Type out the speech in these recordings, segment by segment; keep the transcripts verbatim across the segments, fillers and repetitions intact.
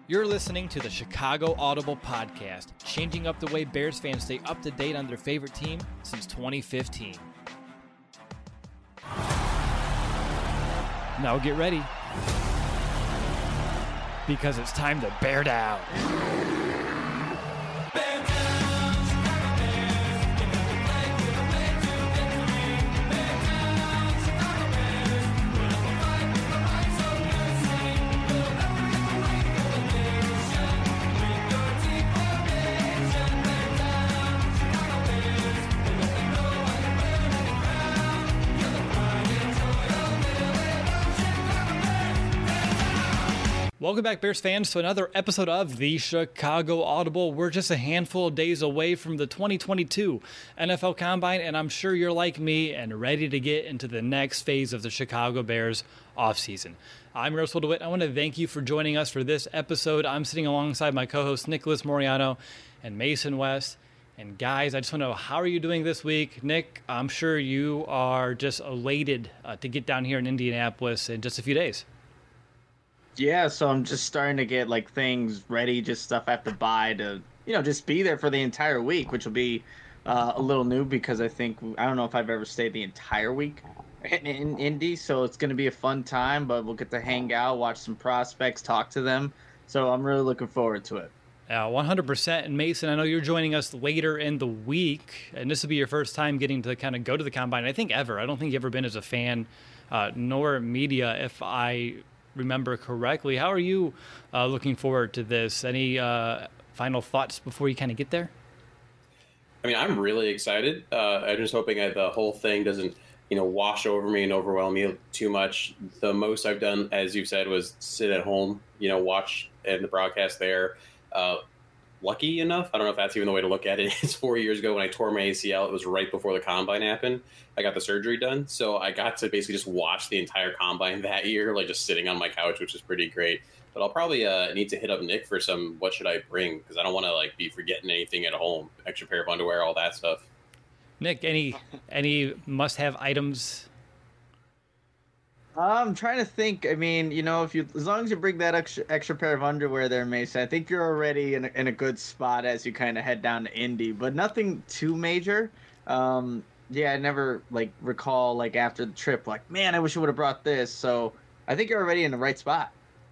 You're listening to the Chicago Audible Podcast, changing up the way Bears fans stay up to date on their favorite team since twenty fifteen. Now get ready, because it's time to bear down. Welcome back, Bears fans, to another episode of the Chicago Audible. We're just a handful of days away from the twenty twenty-two N F L Combine, and I'm sure you're like me and ready to get into the next phase of the Chicago Bears offseason. I'm Russell DeWitt. I want to thank you for joining us for this episode. I'm sitting alongside my co-hosts Nicholas Moriano and Mason West. And guys, I just want to know, how are you doing this week? Nick, I'm sure you are just elated uh, to get down here in Indianapolis in just a few days. Yeah, so I'm just starting to get like things ready, just stuff I have to buy to, you know, just be there for the entire week, which will be uh, a little new because I think, I don't know if I've ever stayed the entire week in, in Indy, so it's going to be a fun time, but we'll get to hang out, watch some prospects, talk to them, so I'm really looking forward to it. Yeah, one hundred percent. And Mason, I know you're joining us later in the week, and this will be your first time getting to kind of go to the Combine, I think ever. I don't think you've ever been as a fan, uh, nor media, if I remember correctly. How are you uh, looking forward to this? Any uh, final thoughts before you kind of get there? I mean, I'm really excited. Uh, I'm just hoping that the whole thing doesn't, you know, wash over me and overwhelm me too much. The most I've done, as you said, was sit at home, you know, watch and the broadcast there. Uh, lucky enough, I don't know if that's even the way to look at it. It's four years ago when I tore my A C L. It was right before the Combine happened. I got the surgery done. So I got to basically just watch the entire Combine that year, like just sitting on my couch, which is pretty great. But I'll probably uh, need to hit up Nick for some, what should I bring? Because I don't want to like be forgetting anything at home. Extra pair of underwear, all that stuff. Nick, any any must-have items? I'm trying to think. I mean, you know, if you, as long as you bring that extra extra pair of underwear there, Mason, I think you're already in a, in a good spot as you kind of head down to Indy. But nothing too major. Um, yeah, I never like recall like after the trip, like, man, I wish I would have brought this. So I think you're already in the right spot.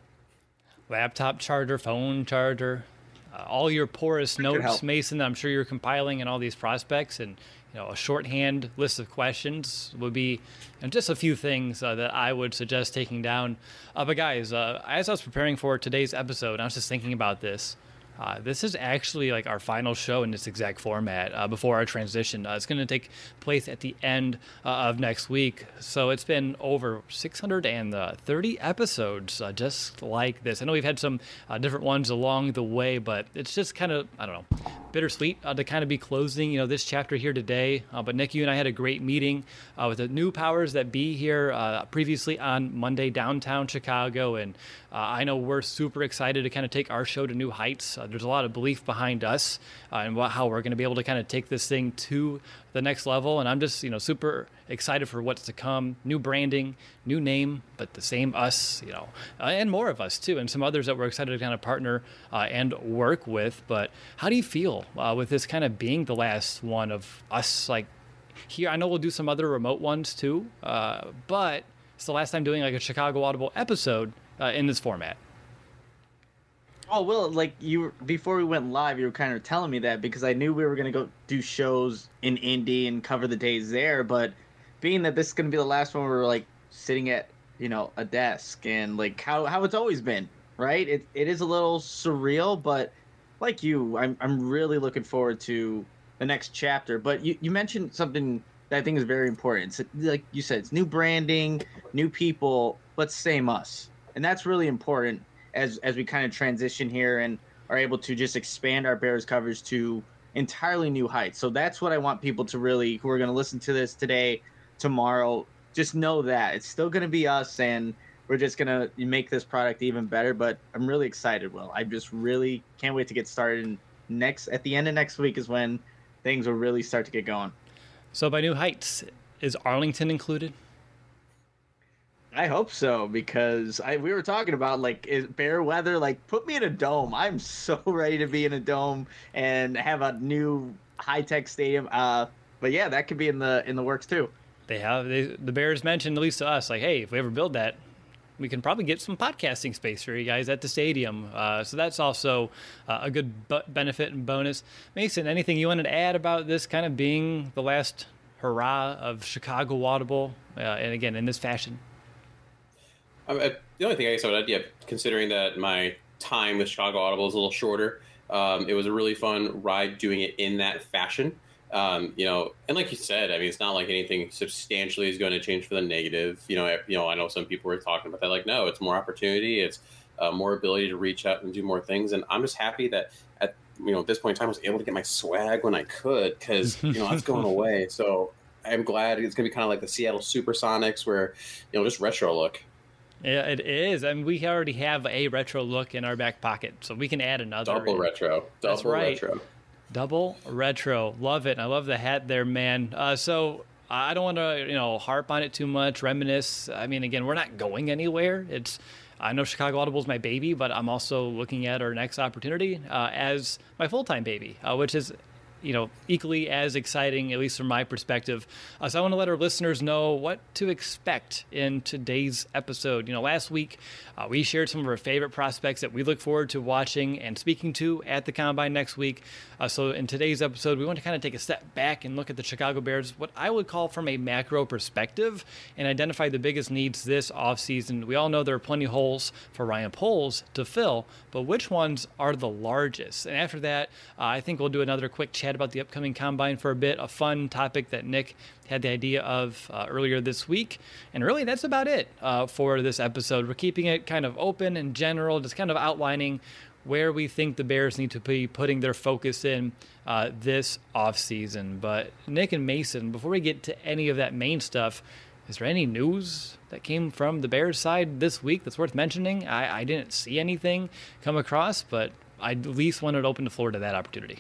Laptop charger, phone charger, uh, all your porous notes, Mason, that I'm sure you're compiling, and all these prospects, and you know, a shorthand list of questions would be, and just a few things uh, that I would suggest taking down. Uh, but guys, uh, as I was preparing for today's episode, I was just thinking about this. Uh, this is actually like our final show in this exact format uh, before our transition. Uh, it's going to take place at the end uh, of next week. So it's been over six hundred thirty episodes uh, just like this. I know we've had some uh, different ones along the way, but it's just kind of, I don't know, bittersweet uh, to kind of be closing, you know, this chapter here today. Uh, but Nick, you and I had a great meeting uh, with the new powers that be here uh, previously on Monday downtown Chicago. And uh, I know we're super excited to kind of take our show to new heights. Uh, there's a lot of belief behind us uh, and what, how we're going to be able to kind of take this thing to the next level. And I'm just, you know, super excited for what's to come. New branding, new name, but the same us, you know, uh, and more of us too, and some others that we're excited to kind of partner uh, and work with. But how do you feel uh, with this kind of being the last one of us? Like here, I know we'll do some other remote ones too, uh, but it's the last time doing like a Chicago Audible episode uh, in this format. Oh, well, like you before we went live, you were kind of telling me that because I knew we were going to go do shows in Indy and cover the days there. But being that this is going to be the last one, we're like sitting at, you know, a desk and like how, how it's always been, right? It it is a little surreal, but like you, I'm I'm really looking forward to the next chapter. But you, you mentioned something that I think is very important. It's like you said, it's new branding, new people, but same us. And that's really important as as we kind of transition here and are able to just expand our Bears coverage to entirely new heights. So that's what I want people to really, who are going to listen to this today, tomorrow, just know that it's still going to be us, and we're just going to make this product even better. But I'm really excited, Will. I just really can't wait to get started. And next, at the end of next week is when things will really start to get going. So by new heights, is Arlington included? I hope so, because I we were talking about like is bear weather. Like, put me in a dome. I'm so ready to be in a dome and have a new high tech stadium. Uh, but yeah, that could be in the in the works too. They have they, the Bears mentioned, at least to us, like, hey, if we ever build that, we can probably get some podcasting space for you guys at the stadium. Uh, so that's also uh, a good bu- benefit and bonus. Mason, anything you wanted to add about this kind of being the last hurrah of Chicago Audible, uh, and again in this fashion? Um, uh, the only thing I guess I would add, yeah, considering that my time with Chicago Audible is a little shorter, um, it was a really fun ride doing it in that fashion. Um, you know, and like you said, I mean, it's not like anything substantially is going to change for the negative. You know, you know, I know some people were talking about that. Like, no, it's more opportunity. It's uh, more ability to reach out and do more things. And I'm just happy that at, you know, at this point in time, I was able to get my swag when I could, because, you know, that's going away. So I'm glad it's going to be kind of like the Seattle Supersonics, where, you know, just retro look. Yeah, it is. I mean, we already have a retro look in our back pocket, so we can add another. Double retro. Double That's right. retro. Double retro. Love it. I love the hat there, man. Uh, so I don't want to, you know, harp on it too much, reminisce. I mean, again, we're not going anywhere. It's, I know Chicago Audible is my baby, but I'm also looking at our next opportunity uh, as my full-time baby, uh, which is, you know, equally as exciting, at least from my perspective. Uh, so I want to let our listeners know what to expect in today's episode. You know, last week uh, we shared some of our favorite prospects that we look forward to watching and speaking to at the Combine next week. Uh, so in today's episode, we want to kind of take a step back and look at the Chicago Bears, what I would call from a macro perspective, and identify the biggest needs this offseason. We all know there are plenty of holes for Ryan Poles to fill, but which ones are the largest? And after that, uh, I think we'll do another quick chat about the upcoming Combine for a bit, a fun topic that Nick had the idea of uh, earlier this week. And really, that's about it uh, for this episode. We're keeping it kind of open and general, just kind of outlining where we think the Bears need to be putting their focus in uh, this offseason. But Nick and Mason, before we get to any of that main stuff, is there any news that came from the Bears side this week that's worth mentioning? I, I didn't see anything come across, but I at least wanted to open the floor to that opportunity.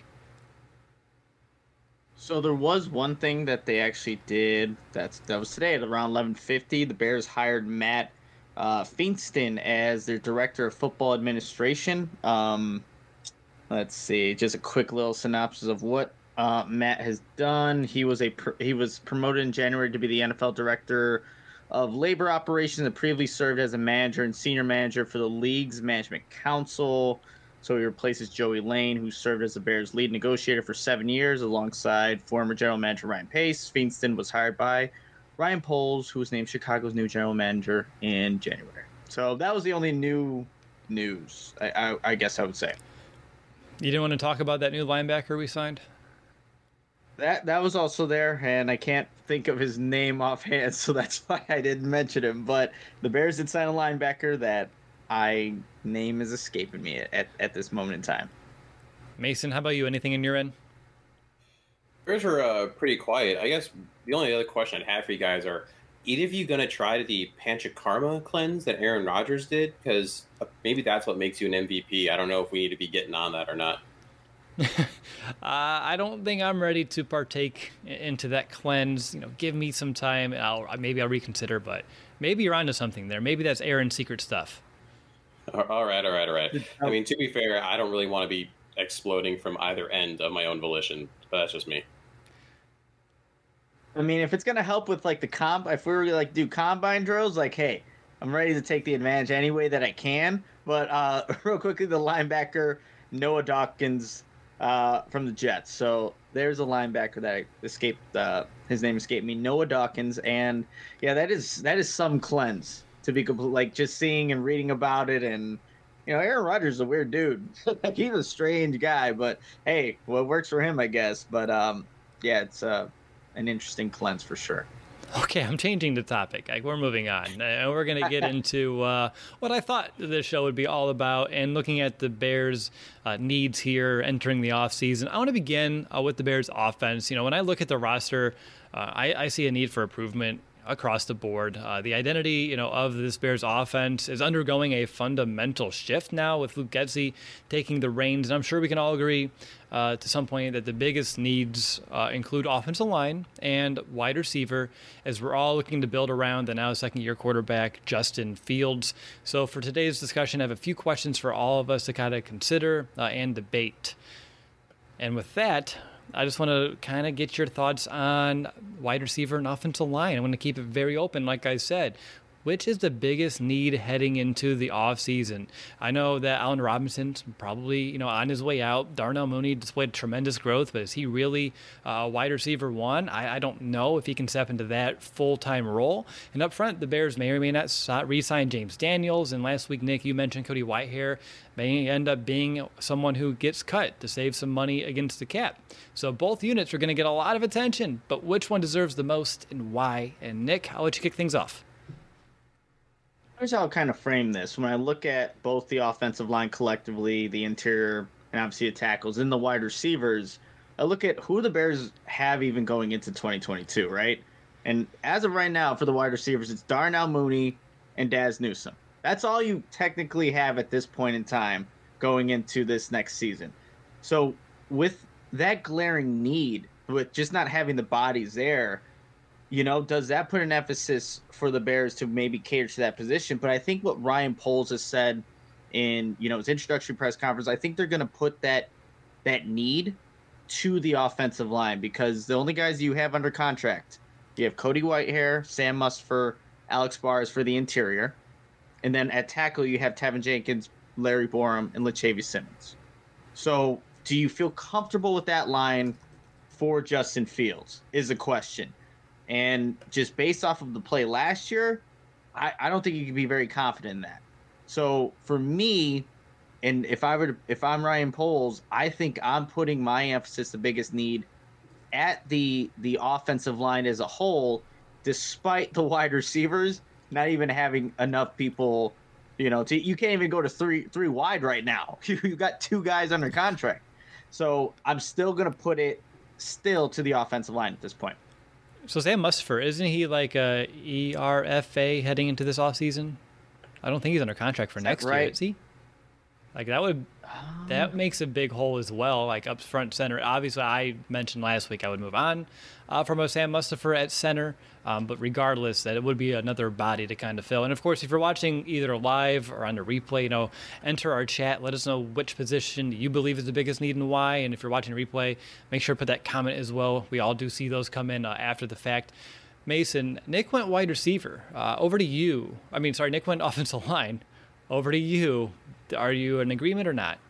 So there was one thing that they actually did. That's that was today at around eleven fifty. The Bears hired Matt uh, Feinston as their director of football administration. Um, let's see, just a quick little synopsis of what uh, Matt has done. He was a pr- he was promoted in January to be the N F L director of labor operations and previously served as a manager and senior manager for the league's management council. So he replaces Joey Lane, who served as the Bears' lead negotiator for seven years alongside former general manager Ryan Pace. Feinston was hired by Ryan Poles, who was named Chicago's new general manager in January. So that was the only new news, I, I, I guess I would say. You didn't want to talk about that new linebacker we signed? That that was also there, and I can't think of his name offhand, so that's why I didn't mention him. But the Bears did sign a linebacker that I name is escaping me at, at this moment in time. Mason, how about you? Anything in your end? Bears are uh, pretty quiet. I guess the only other question I'd have for you guys are, either of you going to try the Panchakarma cleanse that Aaron Rodgers did? Because maybe that's what makes you an M V P. I don't know if we need to be getting on that or not. uh, I don't think I'm ready to partake into that cleanse. You know, give me some time. And I'll maybe I'll reconsider. But maybe you're onto something there. Maybe that's Aaron's secret stuff. All right, all right, all right. I mean, to be fair, I don't really want to be exploding from either end of my own volition, but that's just me. I mean, if it's going to help with, like, the comp, if we were to, like, do combine drills, like, hey, I'm ready to take the advantage any way that I can. But uh, real quickly, the linebacker, Noah Dawkins uh, from the Jets. So there's a linebacker that escaped, uh, his name escaped me, Noah Dawkins. And, yeah, that is that is some cleanse. To be complete, like just seeing and reading about it, and you know, Aaron Rodgers is a weird dude. Like, he's a strange guy, but hey, what works for him, I guess. But um, yeah, it's uh, an interesting cleanse for sure. Okay, I'm changing the topic. Like, we're moving on, and we're going to get into uh, what I thought this show would be all about, and looking at the Bears' uh, needs here entering the offseason. I want to begin uh, with the Bears' offense. You know, when I look at the roster, uh, I, I see a need for improvement. across the board. Uh, the identity, you know, of this Bears offense is undergoing a fundamental shift now with Luke Getsy taking the reins. And I'm sure we can all agree uh, to some point that the biggest needs uh, include offensive line and wide receiver, as we're all looking to build around the now second-year quarterback, Justin Fields. So for today's discussion, I have a few questions for all of us to kind of consider uh, and debate. And with that, I just want to kind of get your thoughts on wide receiver and offensive line. I want to keep it very open, like I said. Which is the biggest need heading into the offseason? I know that Allen Robinson's probably, you know, on his way out. Darnell Mooney displayed tremendous growth, but is he really a uh, wide receiver one? I, I don't know if he can step into that full-time role. And up front, the Bears may or may not re-sign James Daniels. And last week, Nick, you mentioned Cody Whitehair may end up being someone who gets cut to save some money against the cap. So both units are going to get a lot of attention, but which one deserves the most and why? And Nick, I'll let you kick things off. Here's how I'll kind of frame this. When I look at both the offensive line collectively, the interior, and obviously the tackles, and the wide receivers, I look at who the Bears have even going into twenty twenty-two, right? And as of right now, for the wide receivers, it's Darnell Mooney and Daz Newsome. That's all you technically have at this point in time going into this next season. So with that glaring need, with just not having the bodies there, you know, does that put an emphasis for the Bears to maybe cater to that position? But I think what Ryan Poles has said in, you know, his introductory press conference, I think they're going to put that that need to the offensive line, because the only guys you have under contract, you have Cody Whitehair, Sam Mustipher, Alex Bars for the interior. And then at tackle, you have Tevin Jenkins, Larry Borum, and Latavius Simmons. So do you feel comfortable with that line for Justin Fields is a question. And just based off of the play last year, I, I don't think you can be very confident in that. So for me, and if I were to, if I'm Ryan Poles, I think I'm putting my emphasis, the biggest need, at the the offensive line as a whole, despite the wide receivers not even having enough people. You know, to, you can't even go to three three wide right now. You've got two guys under contract. So I'm still going to put it still to the offensive line at this point. So Sam Mustipher, isn't he like a E R F A heading into this offseason? I don't think he's under contract for is next right? year, is he? Like that would um, that makes a big hole as well, like up front center. Obviously, I mentioned last week I would move on uh, from a Sam Mustipher at center, um, but regardless, that it would be another body to kind of fill. And of course, if you're watching either live or on the replay, you know, enter our chat. Let us know which position you believe is the biggest need and why. And if you're watching replay, make sure to put that comment as well. We all do see those come in uh, after the fact. Mason, Nick went wide receiver. Uh, over to you. I mean, sorry, Nick went offensive line. Over to you. Are you in agreement or not?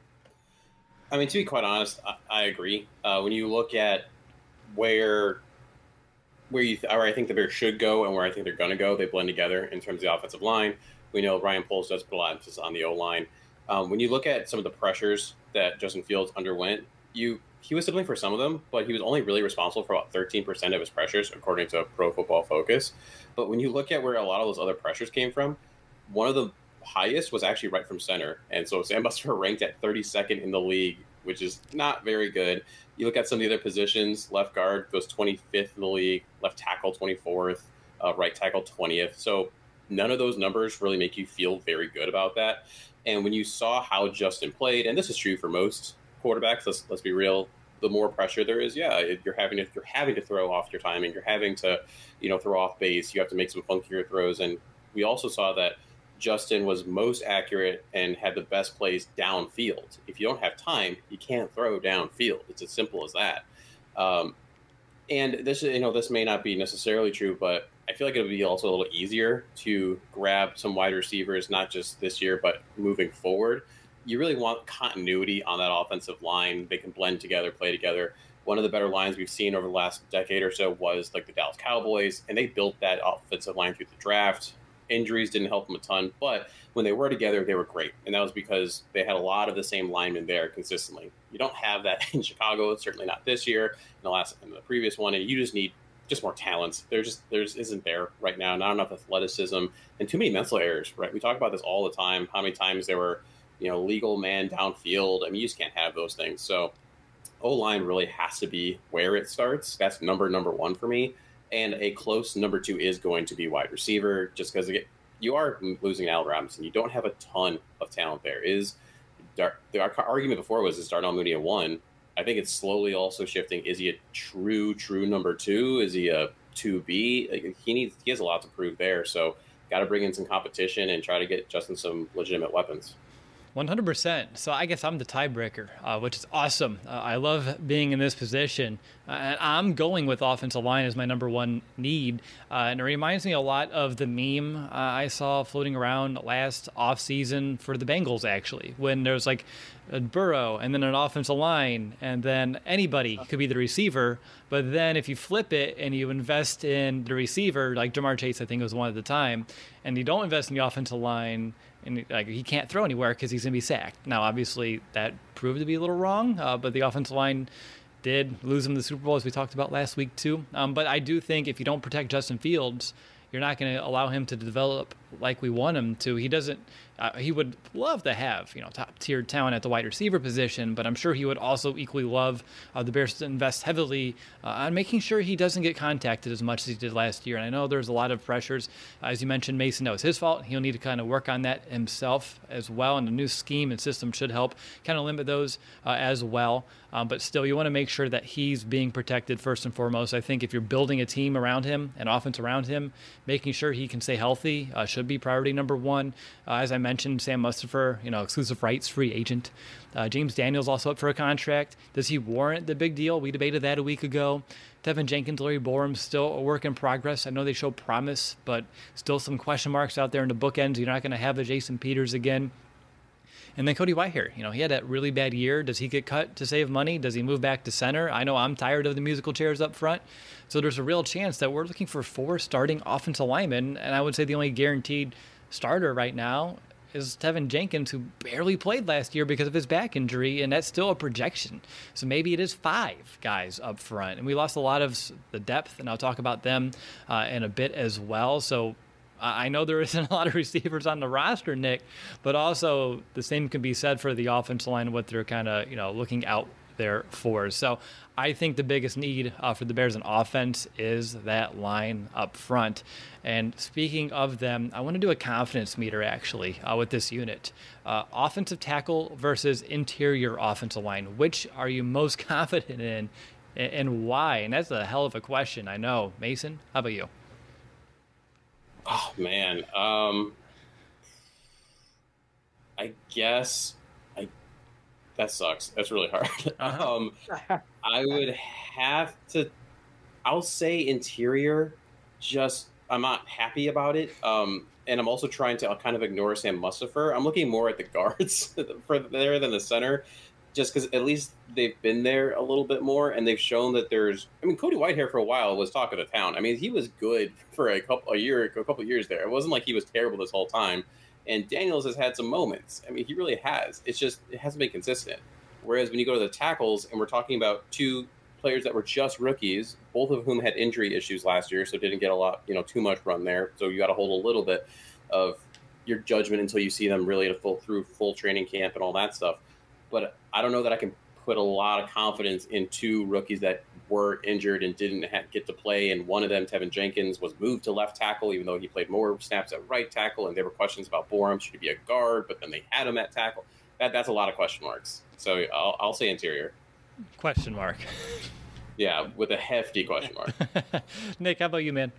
I mean, to be quite honest, I, I agree. Uh, when you look at where where you th- or I think the Bears should go and where I think they're going to go, they blend together in terms of the offensive line. We know Ryan Poles does put a lot of emphasis on the O-line. Um, when you look at some of the pressures that Justin Fields underwent, you he was disciplined for some of them, but he was only really responsible for about thirteen percent of his pressures, according to Pro Football Focus. But when you look at where a lot of those other pressures came from, one of the highest was actually right from center. And so Sam Mustipher ranked at thirty-second in the league, which is not very good. You look at some of the other positions, left guard goes twenty-fifth in the league, left tackle twenty-fourth, uh, right tackle twentieth. So none of those numbers really make you feel very good about that. And when you saw how Justin played, and this is true for most quarterbacks, let's let's be real, the more pressure there is, yeah, you're having to you're having to throw off your timing, you're having to, you know, throw off base, you have to make some funkier throws. And we also saw that Justin was most accurate and had the best plays downfield. If you don't have time, you can't throw downfield. It's as simple as that. Um, and this, you know, this may not be necessarily true, but I feel like it would be also a little easier to grab some wide receivers, not just this year, but moving forward. You really want continuity on that offensive line. They can blend together, play together. One of the better lines we've seen over the last decade or so was like the Dallas Cowboys, and they built that offensive line through the draft. Injuries didn't help them a ton, but when they were together, they were great. And that was because they had a lot of the same linemen there consistently. You don't have that in Chicago, certainly not this year, in the last, in the previous one, and you just need just more talent. There just there just isn't there right now. Not enough athleticism and too many mental errors, right? We talk about this all the time, how many times there were, you know, legal man downfield. I mean, you just can't have those things. So O-line really has to be where it starts. That's number number one for me. and a close number two is going to be wide receiver, just because you are losing Al Robinson. You don't have a ton of talent there. Is Dar- the argument before was is Darnell Mooney a one? I think it's slowly also shifting. Is he a true, true number two? Is he a two B? Like, he needs, he has a lot to prove there. So got to bring in some competition and try to get Justin some legitimate weapons. one hundred percent. So I guess I'm the tiebreaker, uh, which is awesome. Uh, I love being in this position. Uh, and I'm going with offensive line as my number one need. Uh, and it reminds me a lot of the meme uh, I saw floating around last offseason for the Bengals, actually, when there's like a Burrow and then an offensive line, and then anybody could be the receiver. But then if you flip it and you invest in the receiver, like Jamar Chase, I think was one at the time, and you don't invest in the offensive line, and like he can't throw anywhere because he's going to be sacked. Now, obviously, that proved to be a little wrong, uh, but the offensive line did lose him the Super Bowl, as we talked about last week, too. Um, but I do think if you don't protect Justin Fields, you're not going to allow him to develop like we want him to. He doesn't. Uh, he would love to have, you know, top tier talent at the wide receiver position, but I'm sure he would also equally love uh, the Bears to invest heavily uh, on making sure he doesn't get contacted as much as he did last year. And I know there's a lot of pressures. Uh, as you mentioned, Mason, that was his fault. He'll need to kind of work on that himself as well. And the new scheme and system should help kind of limit those uh, as well. Um, but still, you want to make sure that he's being protected first and foremost. I think if you're building a team around him, an offense around him, making sure he can stay healthy uh, should be priority number one. Uh, as I mentioned, Sam Mustipher, you know, exclusive rights, free agent. Uh, James Daniels also up for a contract. Does he warrant the big deal? We debated that a week ago. Tevin Jenkins, Larry Borum, still a work in progress. I know they show promise, but still some question marks out there in the bookends. You're not going to have a Jason Peters again. And then Cody Whitehair, you know, he had that really bad year. Does he get cut to save money? Does he move back to center? I know I'm tired of the musical chairs up front. So there's a real chance that we're looking for four starting offensive linemen. And I would say the only guaranteed starter right now is Tevin Jenkins, who barely played last year because of his back injury, and that's still a projection. So maybe it is five guys up front. And we lost a lot of the depth, and I'll talk about them uh, in a bit as well. So I know there isn't a lot of receivers on the roster, Nick, but also the same can be said for the offensive line, what they're kind of, you know, looking out there for. So I think the biggest need uh, for the Bears in offense is that line up front. And speaking of them, I want to do a confidence meter, actually, uh, with this unit. Uh, offensive tackle versus interior offensive line. Which are you most confident in, and why? And that's a hell of a question, I know. Mason, how about you? Oh, man. Um, I guess I that sucks. That's really hard. Uh-huh. um, I would have to – I'll say interior. Just – I'm not happy about it. Um, and I'm also trying to kind of ignore Sam Mustipher. I'm looking more at the guards for there than the center, just because at least they've been there a little bit more, and they've shown that there's. I mean, Cody Whitehair for a while was talk of the town. I mean, he was good for a couple a year, a couple of years there. It wasn't like he was terrible this whole time. And Daniels has had some moments. I mean, he really has. It's just it hasn't been consistent. Whereas when you go to the tackles, and we're talking about two players that were just rookies, both of whom had injury issues last year, so didn't get a lot, you know, too much run there. So you got to hold a little bit of your judgment until you see them really to full through full training camp and all that stuff. But I don't know that I can put a lot of confidence in two rookies that were injured and didn't ha- get to play. And one of them, Tevin Jenkins, was moved to left tackle, even though he played more snaps at right tackle. And there were questions about Borum, should he be a guard? But then they had him at tackle. That That's a lot of question marks. So I'll, I'll say interior. Question mark. Yeah, with a hefty question mark. Nick, how about you, man?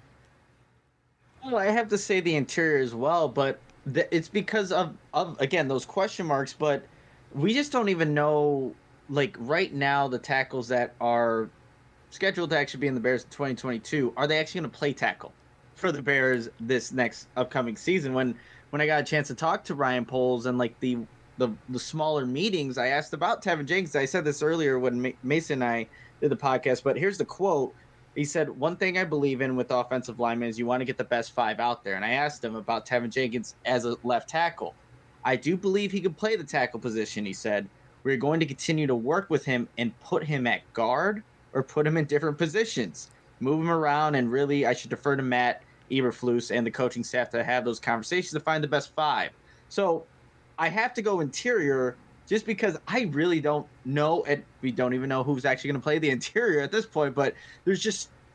Well, I have to say the interior as well, but th- it's because of, of, again, those question marks. But we just don't even know, like, right now, the tackles that are scheduled to actually be in the Bears in twenty twenty-two, are they actually going to play tackle for the Bears this next upcoming season? When when I got a chance to talk to Ryan Poles and, like, the the, the smaller meetings, I asked about Tevin Jenkins. I said this earlier when Ma- Mason and I did the podcast, but here's the quote. He said, one thing I believe in with offensive linemen is you want to get the best five out there. And I asked him about Tevin Jenkins as a left tackle. I do believe he can play the tackle position, he said. We're going to continue to work with him and put him at guard or put him in different positions. Move him around, and really I should defer to Matt Eberflus and the coaching staff to have those conversations to find the best five. So I have to go interior just because I really don't know, and we don't even know who's actually going to play the interior at this point, but there's just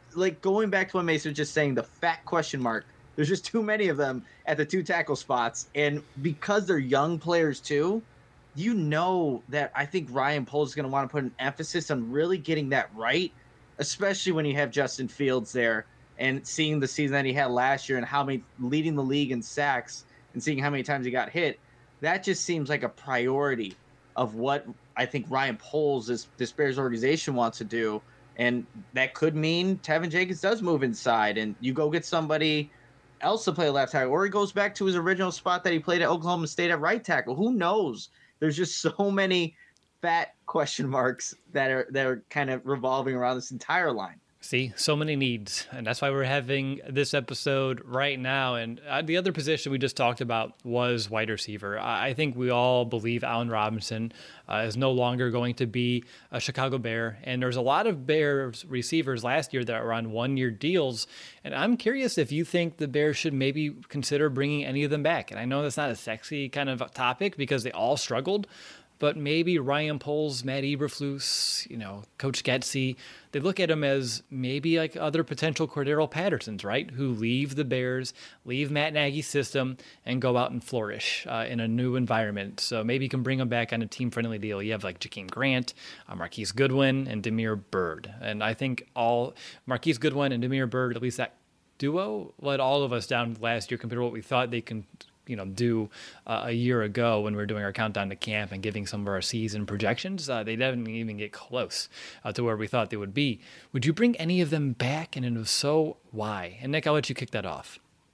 like going back to what Mason was just saying, the fat question mark. There's just too many of them at the two tackle spots. And because they're young players too, you know that I think Ryan Poles is going to want to put an emphasis on really getting that right, especially when you have Justin Fields there and seeing the season that he had last year and how many leading the league in sacks and seeing how many times he got hit. That just seems like a priority of what I think Ryan Poles, this, this Bears organization, wants to do. And that could mean Tevin Jenkins does move inside and you go get somebody else to play left tackle, or he goes back to his original spot that he played at Oklahoma State at right tackle. Who knows? There's just so many fat question marks that are that are kind of revolving around this entire line. See, so many needs, and that's why we're having this episode right now. And uh, the other position we just talked about was wide receiver. I, I think we all believe Allen Robinson uh, is no longer going to be a Chicago Bear, and there's a lot of Bears receivers last year that were on one-year deals, and I'm curious if you think the Bears should maybe consider bringing any of them back. And I know that's not a sexy kind of topic because they all struggled, but maybe Ryan Poles, Matt Eberflus, you know, Coach Getsy, they look at him as maybe like other potential Cordero Pattersons, right? Who leave the Bears, leave Matt Nagy's system, and go out and flourish uh, in a new environment. So maybe you can bring them back on a team-friendly deal. You have like Jakeem Grant, uh, Marquise Goodwin, and Damiere Byrd. And I think all Marquise Goodwin and Damiere Byrd, at least that duo, let all of us down last year compared to what we thought they can you know, do uh, a year ago when we were doing our countdown to camp and giving some of our season projections. Uh, they didn't even get close uh, to where we thought they would be. Would you bring any of them back? And if so, why? And Nick, I'll let you kick that off.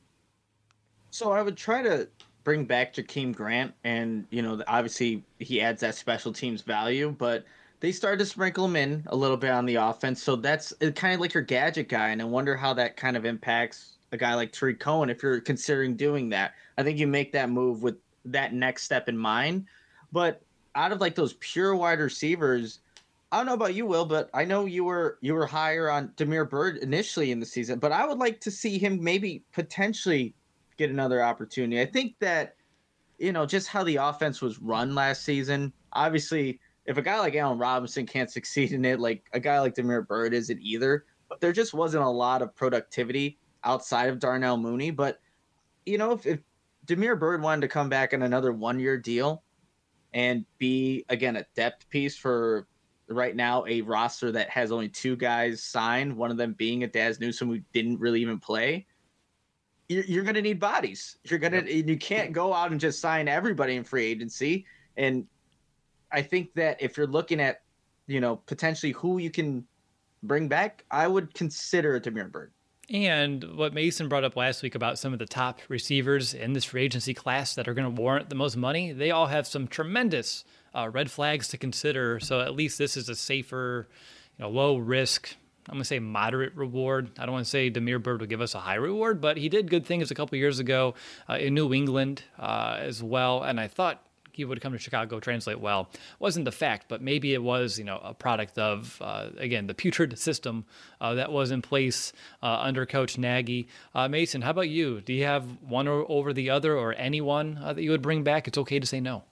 So I would try to bring back Jakeem Grant, and, you know, obviously he adds that special teams value, but they started to sprinkle him in a little bit on the offense. So that's kind of like your gadget guy, and I wonder how that kind of impacts a guy like Tariq Cohen if you're considering doing that. I think you make that move with that next step in mind. But out of like those pure wide receivers, I don't know about you, Will, but I know you were you were higher on Damiere Byrd initially in the season, but I would like to see him maybe potentially get another opportunity. I think that, you know, just how the offense was run last season, obviously if a guy like Allen Robinson can't succeed in it, like a guy like Damiere Byrd isn't either. But there just wasn't a lot of productivity outside of Darnell Mooney. But, you know, if, if Damiere Byrd wanted to come back on another one-year deal and be, again, a depth piece for right now a roster that has only two guys signed, one of them being a Daz Newsome who didn't really even play, you're, you're going to need bodies. You're going to, yep. You can't go out and just sign everybody in free agency. And I think that if you're looking at, you know, potentially who you can bring back, I would consider Damiere Byrd. And what Mason brought up last week about some of the top receivers in this free agency class that are going to warrant the most money, they all have some tremendous uh, red flags to consider. So at least this is a safer, you know, low risk, I'm going to say moderate reward. I don't want to say Damiere Byrd will give us a high reward, but he did good things a couple years ago uh, in New England uh, as well. And I thought he would come to Chicago, translate well. Wasn't the fact, but maybe it was, you know, a product of, uh, again, the putrid system uh, that was in place uh, under Coach Nagy. Uh, Mason, how about you? Do you have one or, over the other or anyone uh, that you would bring back? It's okay to say no.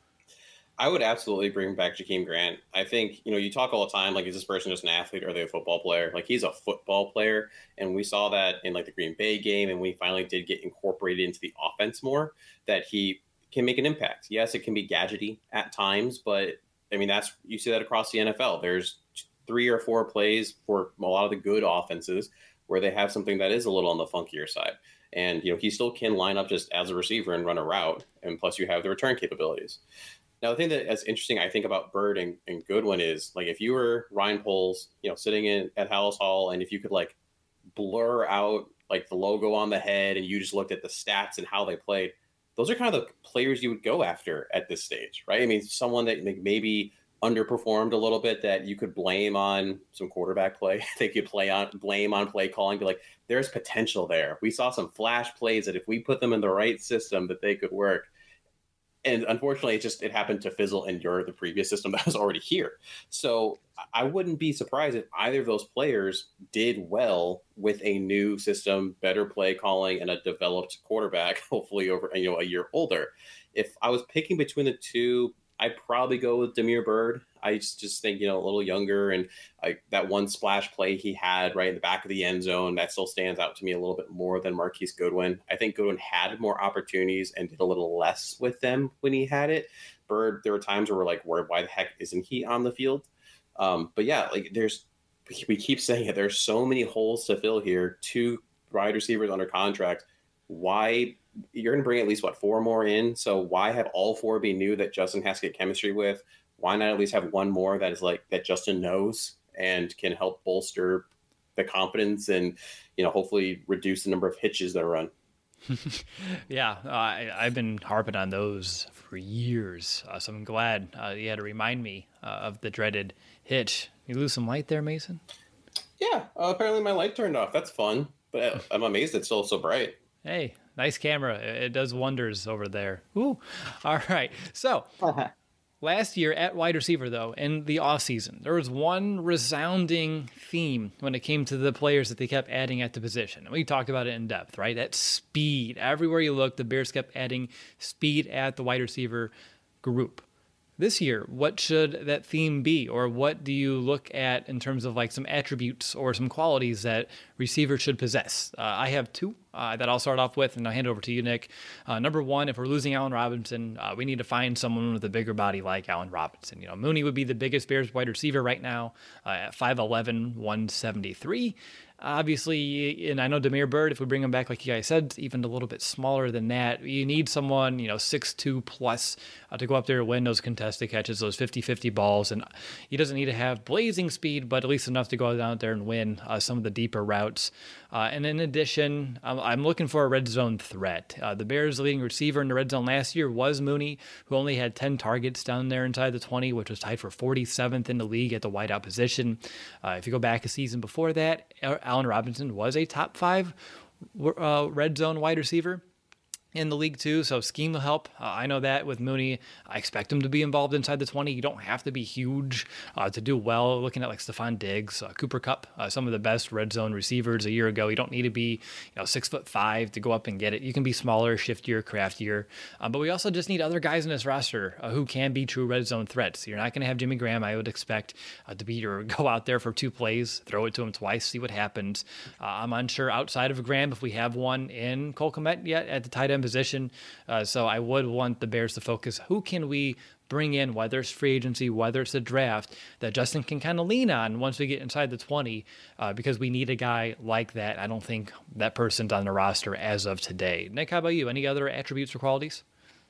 I would absolutely bring back Jakeem Grant. I think, you know, you talk all the time, like, is this person just an athlete or are they a football player? Like, he's a football player, and we saw that in, like, the Green Bay game, and we finally did get incorporated into the offense more, that he can make an impact. Yes, it can be gadgety at times, but I mean, that's, you see that across the N F L. There's three or four plays for a lot of the good offenses where they have something that is a little on the funkier side. And, you know, he still can line up just as a receiver and run a route. And plus you have the return capabilities. Now, the thing that is interesting, I think, about Byrd and, and Goodwin is, like, if you were Ryan Poles, you know, sitting in at Hallis Hall, and if you could, like, blur out, like, the logo on the head and you just looked at the stats and how they played, those are kind of the players you would go after at this stage, right? I mean, someone that maybe underperformed a little bit that you could blame on some quarterback play. They could play on blame on play calling, be like, there's potential there. We saw some flash plays that if we put them in the right system that they could work. And unfortunately, it just, it happened to fizzle and endure the previous system that was already here. So I wouldn't be surprised if either of those players did well with a new system, better play calling, and a developed quarterback, hopefully over, you know, a year older. If I was picking between the two, I'd probably go with Damiere Byrd. I just, just think, you know, a little younger, and like that one splash play he had right in the back of the end zone, that still stands out to me a little bit more than Marquise Goodwin. I think Goodwin had more opportunities and did a little less with them when he had it. Byrd, there were times where we're like, where, why the heck isn't he on the field? Um, but yeah, like there's, we keep saying it, there's so many holes to fill here. Two wide receivers under contract. Why? You're going to bring at least, what, four more in? So why have all four be new that Justin has to get chemistry with? Why not at least have one more that is like that Justin knows and can help bolster the confidence and, you know, hopefully reduce the number of hitches that run? yeah, uh, I, I've been harping on those for years, uh, so I'm glad uh, you had to remind me uh, of the dreaded hitch. You lose some light there, Mason? Yeah, uh, apparently my light turned off. That's fun, but I'm amazed it's still so bright. Hey, nice camera. It does wonders over there. Ooh. All right. So last year at wide receiver, though, in the offseason, there was one resounding theme when it came to the players that they kept adding at the position. And we talked about it in depth, right? That speed. Everywhere you look, the Bears kept adding speed at the wide receiver group. This year, what should that theme be? Or what do you look at in terms of like some attributes or some qualities that receivers should possess? Uh, I have two uh, that I'll start off with, and I'll hand it over to you, Nick. Uh, number one, if we're losing Allen Robinson, uh, we need to find someone with a bigger body like Allen Robinson. You know, Mooney would be the biggest Bears wide receiver right now uh, at five eleven, one seventy-three. Obviously, and I know Damiere Byrd, if we bring him back, like you guys said, even a little bit smaller than that. You need someone, you know, six two plus uh, to go up there and win those contested catches, those fifty-fifty balls. And he doesn't need to have blazing speed, but at least enough to go down there and win uh, some of the deeper routes. Uh, and in addition, I'm, I'm looking for a red zone threat. Uh, the Bears' leading receiver in the red zone last year was Mooney, who only had ten targets down there inside the twenty, which was tied for forty-seventh in the league at the wideout position. Uh, if you go back a season before that, Allen Robinson was a top five uh, red zone wide receiver in the league too, so scheme will help. Uh, I know that with Mooney, I expect him to be involved inside the twenty. You don't have to be huge uh, to do well. Looking at like Stephon Diggs, uh, Cooper Kupp, uh, some of the best red zone receivers a year ago. You don't need to be, you know, six foot five to go up and get it. You can be smaller, shiftier, craftier. Uh, but we also just need other guys in this roster uh, who can be true red zone threats. You're not going to have Jimmy Graham, I would expect, uh, to be or go out there for two plays, throw it to him twice, see what happens. Uh, I'm unsure outside of Graham if we have one in Cole Kmet yet at the tight end position. Uh, so I would want the Bears to focus. Who can we bring in, whether it's free agency, whether it's the draft, that Justin can kind of lean on once we get inside the twenty, uh, because we need a guy like that. I don't think that person's on the roster as of today. Nick, how about you? Any other attributes or qualities?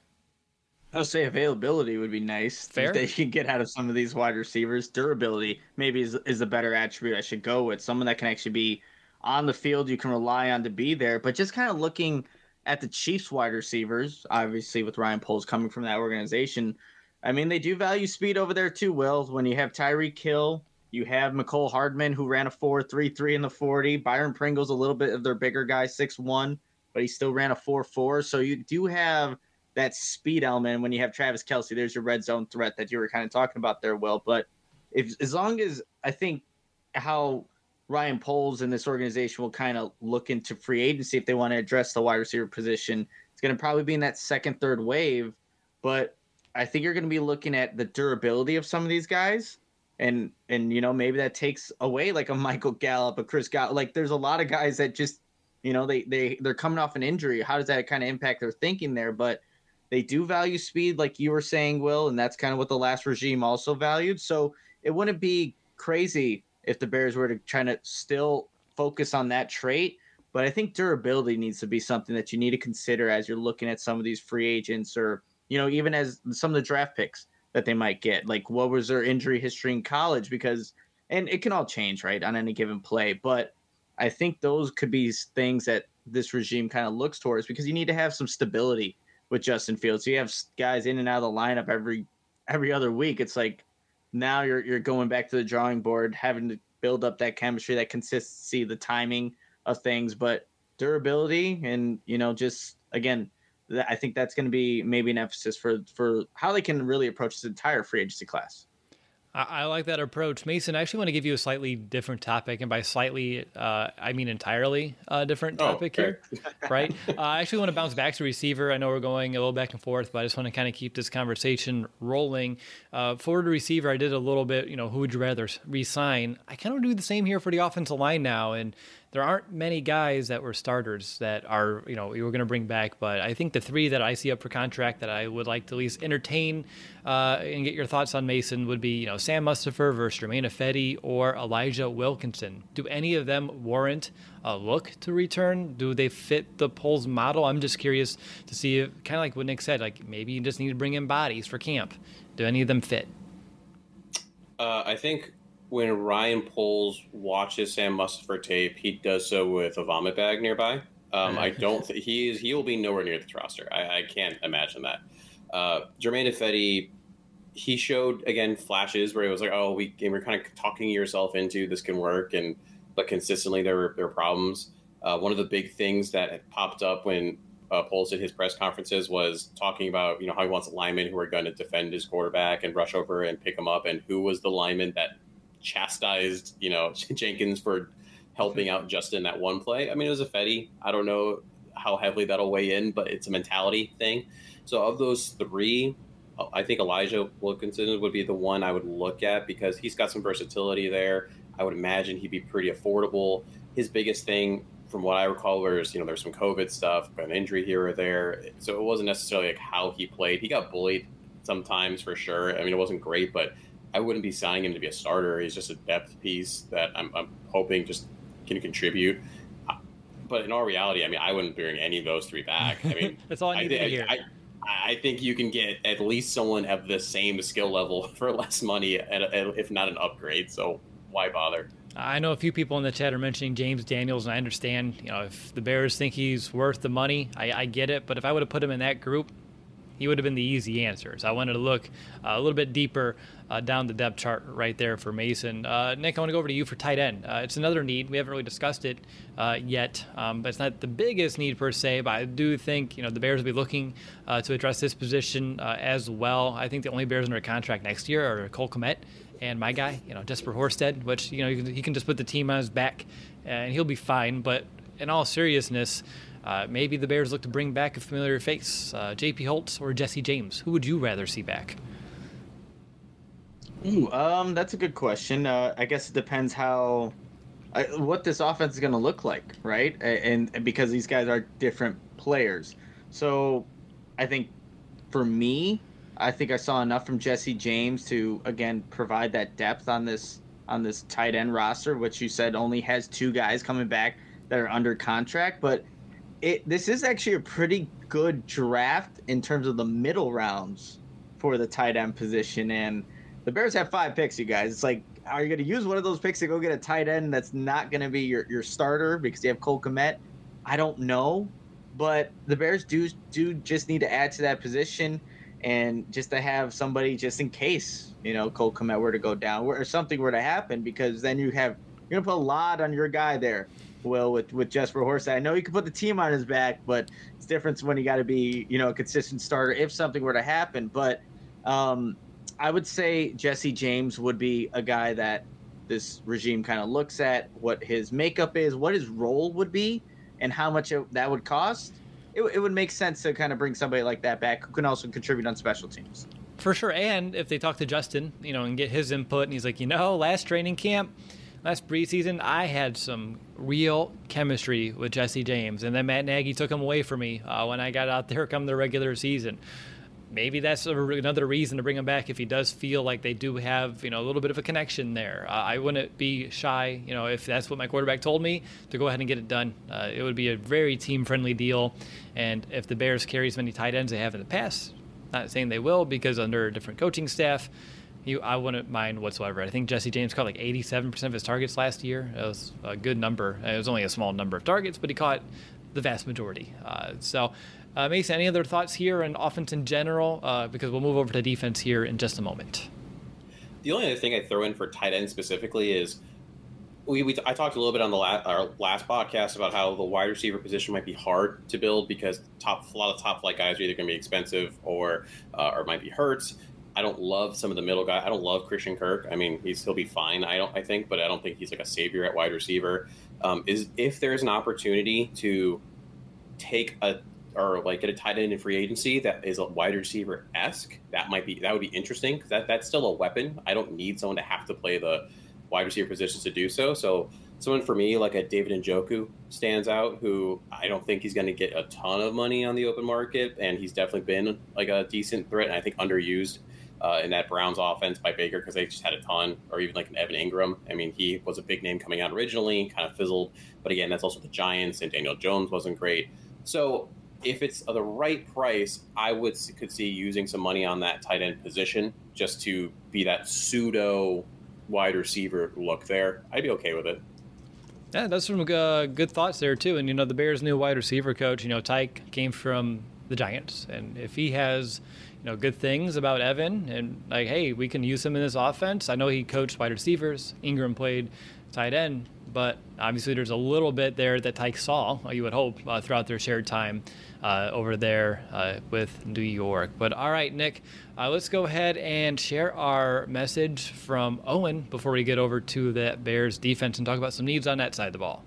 I would say availability would be nice. Fair. They can get out of some of these wide receivers. Durability maybe is, is a better attribute I should go with. Someone that can actually be on the field, you can rely on to be there. But just kind of looking at the Chiefs wide receivers, obviously with Ryan Poles coming from that organization, I mean, they do value speed over there too, Will. When you have Tyreek Hill, you have McCole Hardman, who ran a four three three in the forty. Byron Pringle's a little bit of their bigger guy, six one, but he still ran a four four. So you do have that speed element when you have Travis Kelce. There's your red zone threat that you were kind of talking about there, Will. But if as long as I think how Ryan Poles and this organization will kind of look into free agency if they want to address the wide receiver position, it's going to probably be in that second, third wave. But I think you're going to be looking at the durability of some of these guys. And, and you know, maybe that takes away like a Michael Gallup, a Chris Gallup. Like there's a lot of guys that just, you know, they, they, they're coming off an injury. How does that kind of impact their thinking there? But they do value speed, like you were saying, Will, and that's kind of what the last regime also valued. So it wouldn't be crazy if the Bears were to try to still focus on that trait. But I think durability needs to be something that you need to consider as you're looking at some of these free agents or, you know, even as some of the draft picks that they might get. Like, what was their injury history in college? Because, and it can all change, right, on any given play. But I think those could be things that this regime kind of looks towards because you need to have some stability with Justin Fields. So you have guys in and out of the lineup every every other week. It's like, now you're you're going back to the drawing board, having to build up that chemistry, that consistency, the timing of things, but durability and, you know, just, again, I think that's going to be maybe an emphasis for, for how they can really approach this entire free agency class. I, I like that approach. Mason, I actually want to give you a slightly different topic. And by slightly, uh, I mean entirely uh, different topic oh, okay. here, right? uh, I actually want to bounce back to receiver. I know we're going a little back and forth, but I just want to kind of keep this conversation rolling. Uh, forward to receiver, I did a little bit, you know, who would you rather re-sign? I kind of do the same here for the offensive line now. And there aren't many guys that were starters that are, you know, you were going to bring back. But I think the three that I see up for contract that I would like to at least entertain uh, and get your thoughts on, Mason, would be, you know, Sam Mustipher versus Germain Ifedi or Elijah Wilkinson. Do any of them warrant a look to return? Do they fit the Poles model? I'm just curious to see, if, kind of like what Nick said, like maybe you just need to bring in bodies for camp. Do any of them fit? Uh, I think when Ryan Poles watches Sam Mustipher tape, he does so with a vomit bag nearby. Um, I don't think he is. He will be nowhere near this roster. I, I can't imagine that. Uh, Germain Ifedi, he showed again flashes where it was like, oh, we and we're kind of talking yourself into this can work, and but consistently there were there were problems. Uh, one of the big things that had popped up when uh, Poles did his press conferences was talking about you know how he wants linemen who are going to defend his quarterback and rush over and pick him up, and who was the lineman that chastised, you know, Jenkins for helping out Justin that one play. I mean, it was a Ifedi. I don't know how heavily that'll weigh in, but it's a mentality thing. So of those three, I think Elijah Wilkinson would be the one I would look at because he's got some versatility there. I would imagine he'd be pretty affordable. His biggest thing, from what I recall, was, you know, there's some COVID stuff, an injury here or there. So it wasn't necessarily like how he played. He got bullied sometimes for sure. I mean, it wasn't great, but I wouldn't be signing him to be a starter. He's just a depth piece that I'm, I'm hoping just can contribute. But in all reality, I mean, I wouldn't bring any of those three back. I mean, that's all I need I, to hear. I, I think you can get at least someone of the same skill level for less money, at a, if not an upgrade. So why bother? I know a few people in the chat are mentioning James Daniels, and I understand, you know, if the Bears think he's worth the money, I, I get it. But if I would have put him in that group, he would have been the easy answer. So I wanted to look uh, a little bit deeper uh, down the depth chart right there for Mason. Uh, Nick, I want to go over to you for tight end. Uh, it's another need. We haven't really discussed it uh, yet, um, but it's not the biggest need per se. But I do think, you know, the Bears will be looking uh, to address this position uh, as well. I think the only Bears under contract next year are Cole Kmet and my guy, you know, Jesper Horsted, which, you know, he can, he can just put the team on his back and he'll be fine. But in all seriousness, Uh, maybe the Bears look to bring back a familiar face, uh, J P Holtz or Jesse James. Who would you rather see back? Ooh, um, that's a good question. Uh, I guess it depends how, uh, what this offense is going to look like, right? And, and because these guys are different players, so I think for me, I think I saw enough from Jesse James to again provide that depth on this on this tight end roster, which you said only has two guys coming back that are under contract, but It, this is actually a pretty good draft in terms of the middle rounds for the tight end position. And the Bears have five picks, you guys. It's like, are you going to use one of those picks to go get a tight end that's not going to be your, your starter because you have Cole Kmet? I don't know. But the Bears do, do just need to add to that position and just to have somebody just in case, you know, Cole Kmet were to go down or something were to happen, because then you have, you're going to put a lot on your guy there. Well, with, with Jesper Horsted, I know you can put the team on his back, but it's different when you got to be, you know, a consistent starter if something were to happen. But um, I would say Jesse James would be a guy that this regime kind of looks at what his makeup is, what his role would be, and how much it, that would cost. It, it would make sense to kind of bring somebody like that back who can also contribute on special teams. For sure. And if they talk to Justin, you know, and get his input, and he's like, you know, last training camp, last preseason, I had some real chemistry with Jesse James, and then Matt Nagy took him away from me uh, when I got out there come the regular season. Maybe that's a, another reason to bring him back if he does feel like they do have, you know, a little bit of a connection there. Uh, I wouldn't be shy, you know, if that's what my quarterback told me, to go ahead and get it done. Uh, it would be a very team-friendly deal, and if the Bears carry as many tight ends they have in the past, not saying they will because under a different coaching staff, You, I wouldn't mind whatsoever. I think Jesse James caught like eighty-seven percent of his targets last year. It was a good number. It was only a small number of targets, but he caught the vast majority. Uh, so, uh, Mason, any other thoughts here on offense in general? Uh, because we'll move over to defense here in just a moment. The only other thing I throw in for tight end specifically is we, we I talked a little bit on the last, our last podcast about how the wide receiver position might be hard to build because top a lot of top flight guys are either going to be expensive or uh, or might be hurt. I don't love some of the middle guys. I don't love Christian Kirk. I mean, he's he'll be fine. I don't. I think, but I don't think he's like a savior at wide receiver. Um, is if there's an opportunity to take a or like get a tight end in free agency that is a wide receiver esque, that might be that would be interesting because that that's still a weapon. I don't need someone to have to play the wide receiver positions to do so. So someone for me like a David Njoku stands out, who I don't think he's going to get a ton of money on the open market, and he's definitely been like a decent threat and I think underused uh, in that Browns offense by Baker because they just had a ton, or even like an Evan Ingram. I mean, he was a big name coming out originally, kind of fizzled, but again, that's also the Giants, and Daniel Jones wasn't great. So if it's the right price, I would could see using some money on that tight end position just to be that pseudo wide receiver look there. I'd be okay with it. Yeah, that's some uh, good thoughts there too. And you know, the Bears' new wide receiver coach, you know, Tyke came from the Giants, and if he has, you know, good things about Evan and like, hey, we can use him in this offense. I know he coached wide receivers. Ingram played tight end, but obviously there's a little bit there that Tyke saw, you would hope, uh, throughout their shared time uh, over there uh, with New York. But all right, Nick, uh, let's go ahead and share our message from Owen before we get over to the Bears defense and talk about some needs on that side of the ball.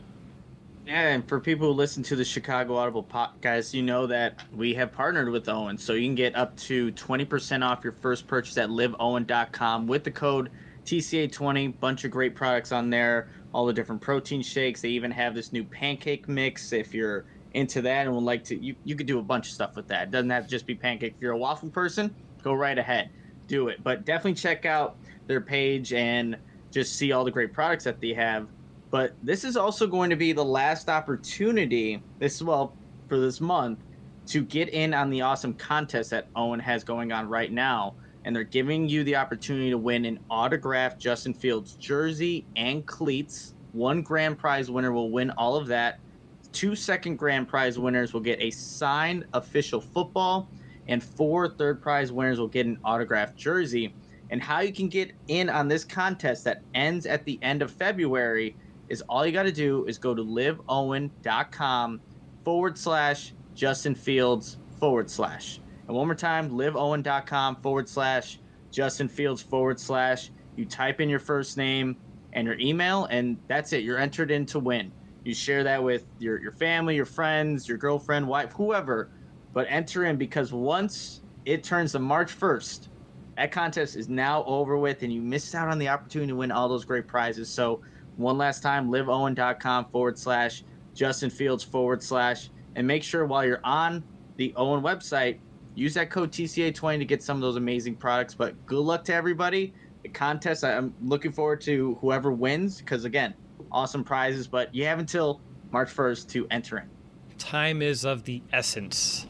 Yeah, and for people who listen to the Chicago Audible podcast, you know that we have partnered with Owen, so you can get up to twenty percent off your first purchase at live owen dot com with the code T C A twenty. Bunch of great products on there, all the different protein shakes. They even have this new pancake mix if you're into that and would like to. You, you could do a bunch of stuff with that. It doesn't have to just be pancake. If you're a waffle person, go right ahead. Do it. But definitely check out their page and just see all the great products that they have. But this is also going to be the last opportunity, this well, for this month, to get in on the awesome contest that Owen has going on right now. And they're giving you the opportunity to win an autographed Justin Fields jersey and cleats. One grand prize winner will win all of that. Two second grand prize winners will get a signed official football, and four third prize winners will get an autographed jersey. And how you can get in on this contest that ends at the end of February is all you got to do is go to live owen dot com forward slash Justin Fields forward slash. And one more time, live owen dot com forward slash Justin Fields forward slash. You type in your first name and your email, and that's it. You're entered in to win. You share that with your, your family, your friends, your girlfriend, wife, whoever. But enter in, because once it turns to March first, that contest is now over with, and you missed out on the opportunity to win all those great prizes. So one last time, live owen dot com forward slash Justin Fields forward slash. And make sure while you're on the Owen website, use that code T C A twenty to get some of those amazing products. But good luck to everybody. The contest, I'm looking forward to whoever wins because, again, awesome prizes. But you have until March first to enter in. Time is of the essence.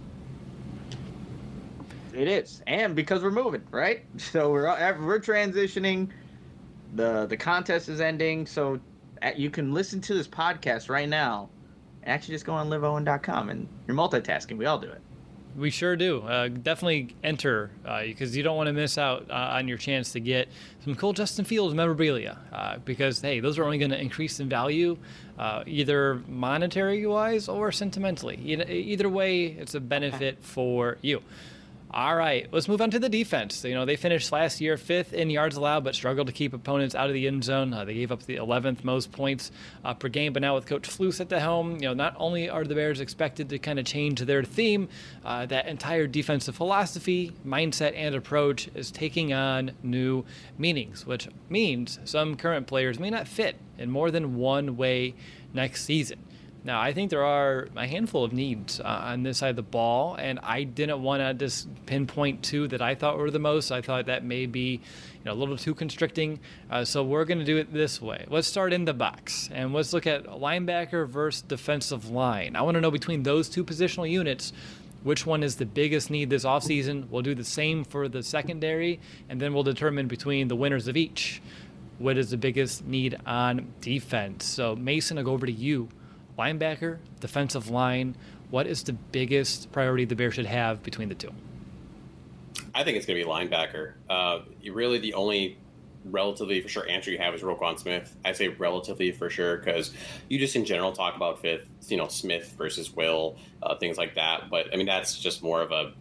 It is. And because we're moving, right? So we're we're transitioning. The, the contest is ending. So you can listen to this podcast right now and actually just go on live owen dot com. And you're multitasking. We all do it. We sure do. Uh, definitely enter uh, because you don't want to miss out uh, on your chance to get some cool Justin Fields memorabilia uh, because, hey, those are only going to increase in value uh, either monetary-wise or sentimentally. Either way, it's a benefit for you. All right, let's move on to the defense. You know, they finished last year fifth in yards allowed, but struggled to keep opponents out of the end zone. Uh, they gave up the eleventh most points uh, per game. But now with Coach Flus at the helm, you know, not only are the Bears expected to kind of change their theme, uh, that entire defensive philosophy, mindset, and approach is taking on new meanings, which means some current players may not fit in more than one way next season. Now, I think there are a handful of needs uh, on this side of the ball, and I didn't want to just pinpoint two that I thought were the most. I thought that may be, you know, a little too constricting, uh, so we're going to do it this way. Let's start in the box, and let's look at linebacker versus defensive line. I want to know between those two positional units, which one is the biggest need this offseason. We'll do the same for the secondary, and then we'll determine between the winners of each what is the biggest need on defense. So, Mason, I'll go over to you. Linebacker, defensive line, what is the biggest priority the Bears should have between the two? I think it's going to be linebacker. Uh, really, the only relatively for sure answer you have is Roquan Smith. I say relatively for sure because you just in general talk about fifth, you know, Smith versus Will, uh, things like that. But I mean, that's just more of a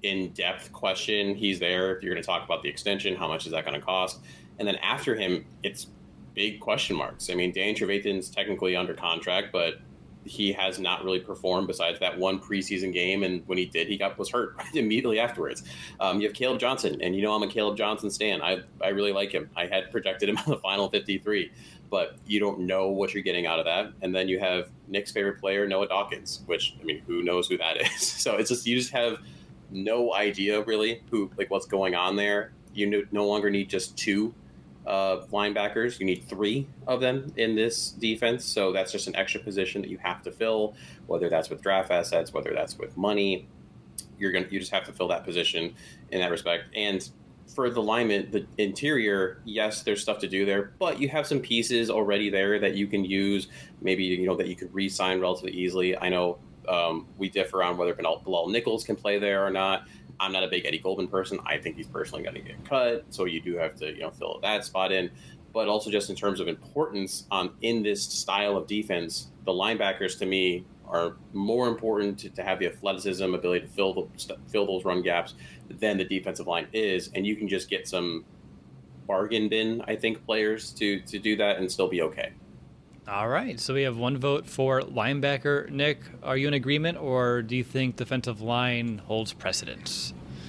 in-depth question. He's there. If you're going to talk about the extension, how much is that going to cost? And then after him, it's big question marks. I mean, Danny Trevathan's technically under contract, but he has not really performed besides that one preseason game. And when he did, he got was hurt immediately afterwards. Um, you have Caleb Johnson, and you know I'm a Caleb Johnson stan. I I really like him. I had projected him on the final fifty-three, but you don't know what you're getting out of that. And then you have Nick's favorite player, Noah Dawkins, which, I mean, who knows who that is? So it's just, you just have no idea really who, like, what's going on there. You no, no longer need just two Uh, linebackers. You need three of them in this defense, so that's just an extra position that you have to fill, whether that's with draft assets, whether that's with money. You're gonna you just have to fill that position in that respect. And for the lineman, the interior, yes, there's stuff to do there, but you have some pieces already there that you can use, maybe, you know, that you could re-sign relatively easily. I know um, we differ on whether Bilal Nichols can play there or not. I'm not a big Eddie Goldman person. I think he's personally going to get cut, so you do have to, you know, fill that spot in. But also just in terms of importance on in this style of defense, the linebackers to me are more important to, to have the athleticism, ability to fill the fill those run gaps than the defensive line is, and you can just get some bargain bin, I think, players to to do that and still be okay. All right, so we have one vote for linebacker. Nick, are you in agreement, or do you think defensive line holds precedence?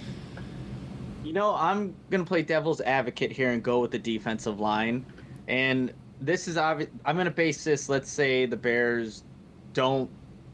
You know, I'm going to play devil's advocate here and go with the defensive line. And this is obvious. I'm going to base this, let's say the Bears don't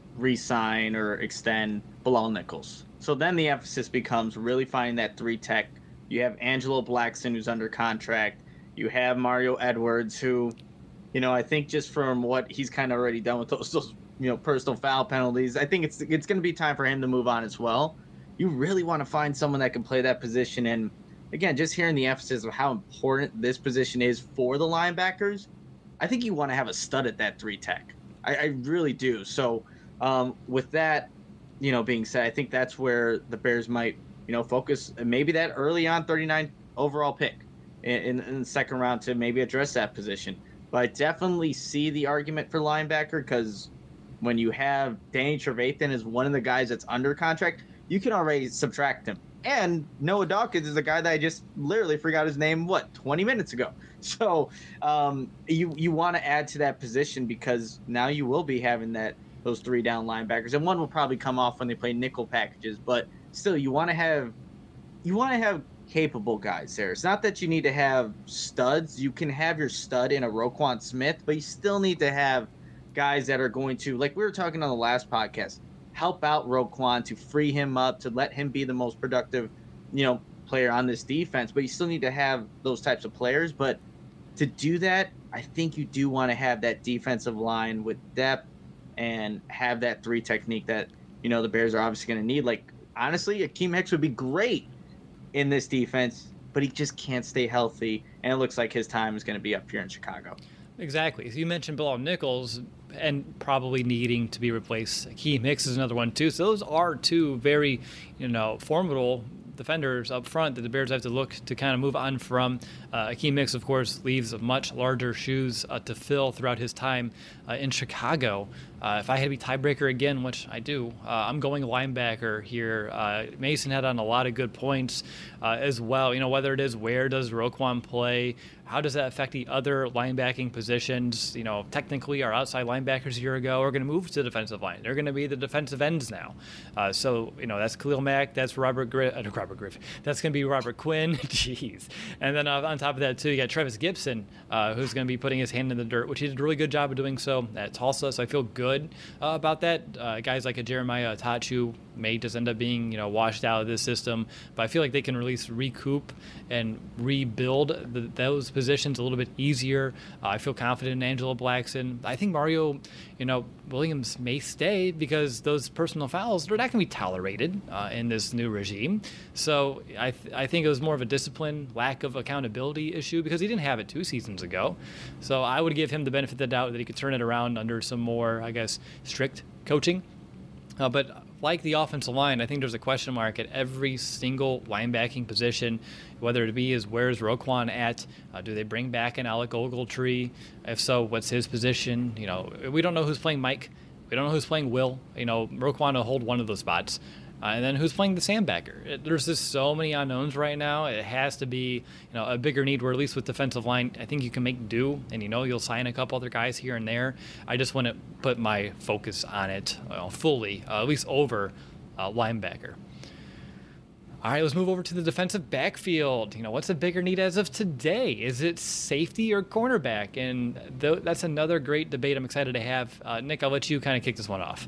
re-sign or extend Bilal Nichols. So then the emphasis becomes really finding that three tech. You have Angelo Blackson, who's under contract. You have Mario Edwards, who... You know, I think just from what he's kind of already done with those, those you know, personal foul penalties, I think it's it's going to be time for him to move on as well. You really want to find someone that can play that position. And, again, just hearing the emphasis of how important this position is for the linebackers, I think you want to have a stud at that three tech. I, I really do. So um, with that, you know, being said, I think that's where the Bears might, you know, focus maybe that early on thirty-nine overall pick in, in, in the second round to maybe address that position. But I definitely see the argument for linebacker, because when you have Danny Trevathan as one of the guys that's under contract, you can already subtract him. And Noah Dawkins is a guy that I just literally forgot his name, what, twenty minutes ago. So um, you you want to add to that position, because now you will be having that those three down linebackers, and one will probably come off when they play nickel packages. But still, you want to have you want to have capable guys there. It's not that you need to have studs. You can have your stud in a Roquan Smith, but you still need to have guys that are going to, like we were talking on the last podcast, help out Roquan to free him up, to let him be the most productive, you know, player on this defense. But you still need to have those types of players. But to do that, I think you do want to have that defensive line with depth and have that three technique that, you know, the Bears are obviously going to need. Like, honestly, Akeem Hicks would be great in this defense, but he just can't stay healthy, and it looks like his time is going to be up here in Chicago. Exactly. So you mentioned Bilal Nichols and probably needing to be replaced. Akeem Hicks is another one too. So those are two very, you know, formidable defenders up front that the Bears have to look to kind of move on from. Uh, Akeem Hicks, of course, leaves much larger shoes uh, to fill throughout his time uh, in Chicago. Uh, if I had to be tiebreaker again, which I do, uh, I'm going linebacker here. Uh, Mason had on a lot of good points uh, as well. You know, whether it is where does Roquan play, how does that affect the other linebacking positions? You know, technically our outside linebackers a year ago are going to move to the defensive line. They're going to be the defensive ends now. Uh, so, you know, that's Khalil Mack, that's Robert Griffin, uh, Robert Griffin. That's going to be Robert Quinn. Jeez. And then uh, on top of that, too, you got Travis Gibson, uh, who's going to be putting his hand in the dirt, which he did a really good job of doing so at Tulsa. So I feel good uh, about that. Uh, guys like a Jeremiah Tachu may just end up being, you know, washed out of this system, but I feel like they can at least recoup and rebuild the, those positions a little bit easier. Uh, I feel confident in Angelo Blackson. I think Mario, you know, Williams may stay because those personal fouls, they're not going to be tolerated uh, in this new regime. So I th- I think it was more of a discipline, lack of accountability issue because he didn't have it two seasons ago. So I would give him the benefit of the doubt that he could turn it around under some more, I guess, strict coaching. Uh, but like the offensive line, I think there's a question mark at every single linebacking position, whether it be is where's Roquan at? Uh, do they bring back an Alec Ogletree? If so, what's his position? You know, we don't know who's playing Mike. We don't know who's playing Will. You know, Roquan will hold one of those spots. Uh, and then who's playing the sandbagger? It, there's just so many unknowns right now. It has to be, you know, a bigger need. Where at least with defensive line, I think you can make do, and you know you'll sign a couple other guys here and there. I just want to put my focus on it uh, fully, uh, at least over uh, linebacker. All right, let's move over to the defensive backfield. You know, what's a bigger need as of today? Is it safety or cornerback? And th- that's another great debate I'm excited to have. Uh, Nick, I'll let you kind of kick this one off.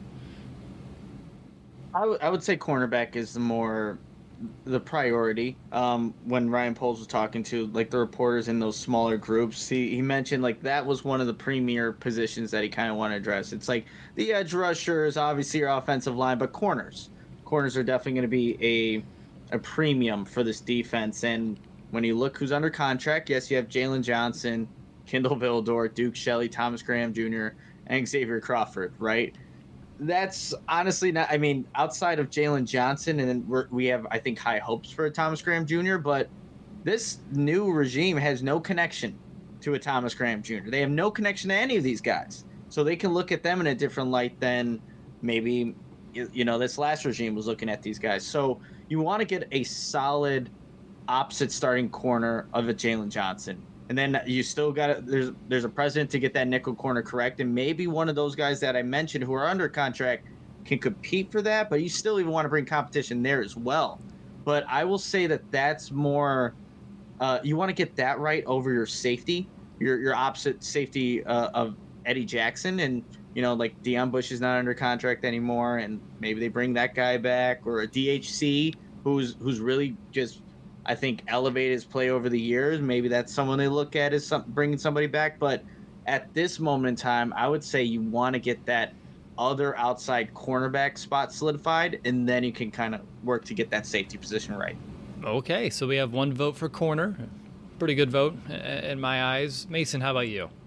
I, w- I would say cornerback is the more the priority. Um, when Ryan Poles was talking to like the reporters in those smaller groups, he, he mentioned like that was one of the premier positions that he kind of wanted to address. It's like the edge rushers, obviously your offensive line, but corners. Corners are definitely going to be a a premium for this defense. And when you look who's under contract, yes, you have Jalen Johnson, Kindle Vildor, Duke Shelley, Thomas Graham Junior, and Xavier Crawford, right? That's honestly not, I mean, outside of Jalen Johnson, and then we're, we have, I think, high hopes for a Thomas Graham Junior, but this new regime has no connection to a Thomas Graham Junior They have no connection to any of these guys. So they can look at them in a different light than maybe, you know, this last regime was looking at these guys. So you want to get a solid opposite starting corner of a Jalen Johnson. And then you still got to, there's there's a precedent to get that nickel corner correct. And maybe one of those guys that I mentioned who are under contract can compete for that, but you still even want to bring competition there as well. But I will say that that's more, uh, you want to get that right over your safety, your your opposite safety uh, of Eddie Jackson. And, you know, like Deion Bush is not under contract anymore, and maybe they bring that guy back, or a D H C who's who's really just, I think, elevated his play over the years. Maybe that's someone they look at as some, bringing somebody back. But at this moment in time, I would say you want to get that other outside cornerback spot solidified, and then you can kind of work to get that safety position right. Okay, so we have one vote for corner. Pretty good vote in my eyes. Mason, how about you?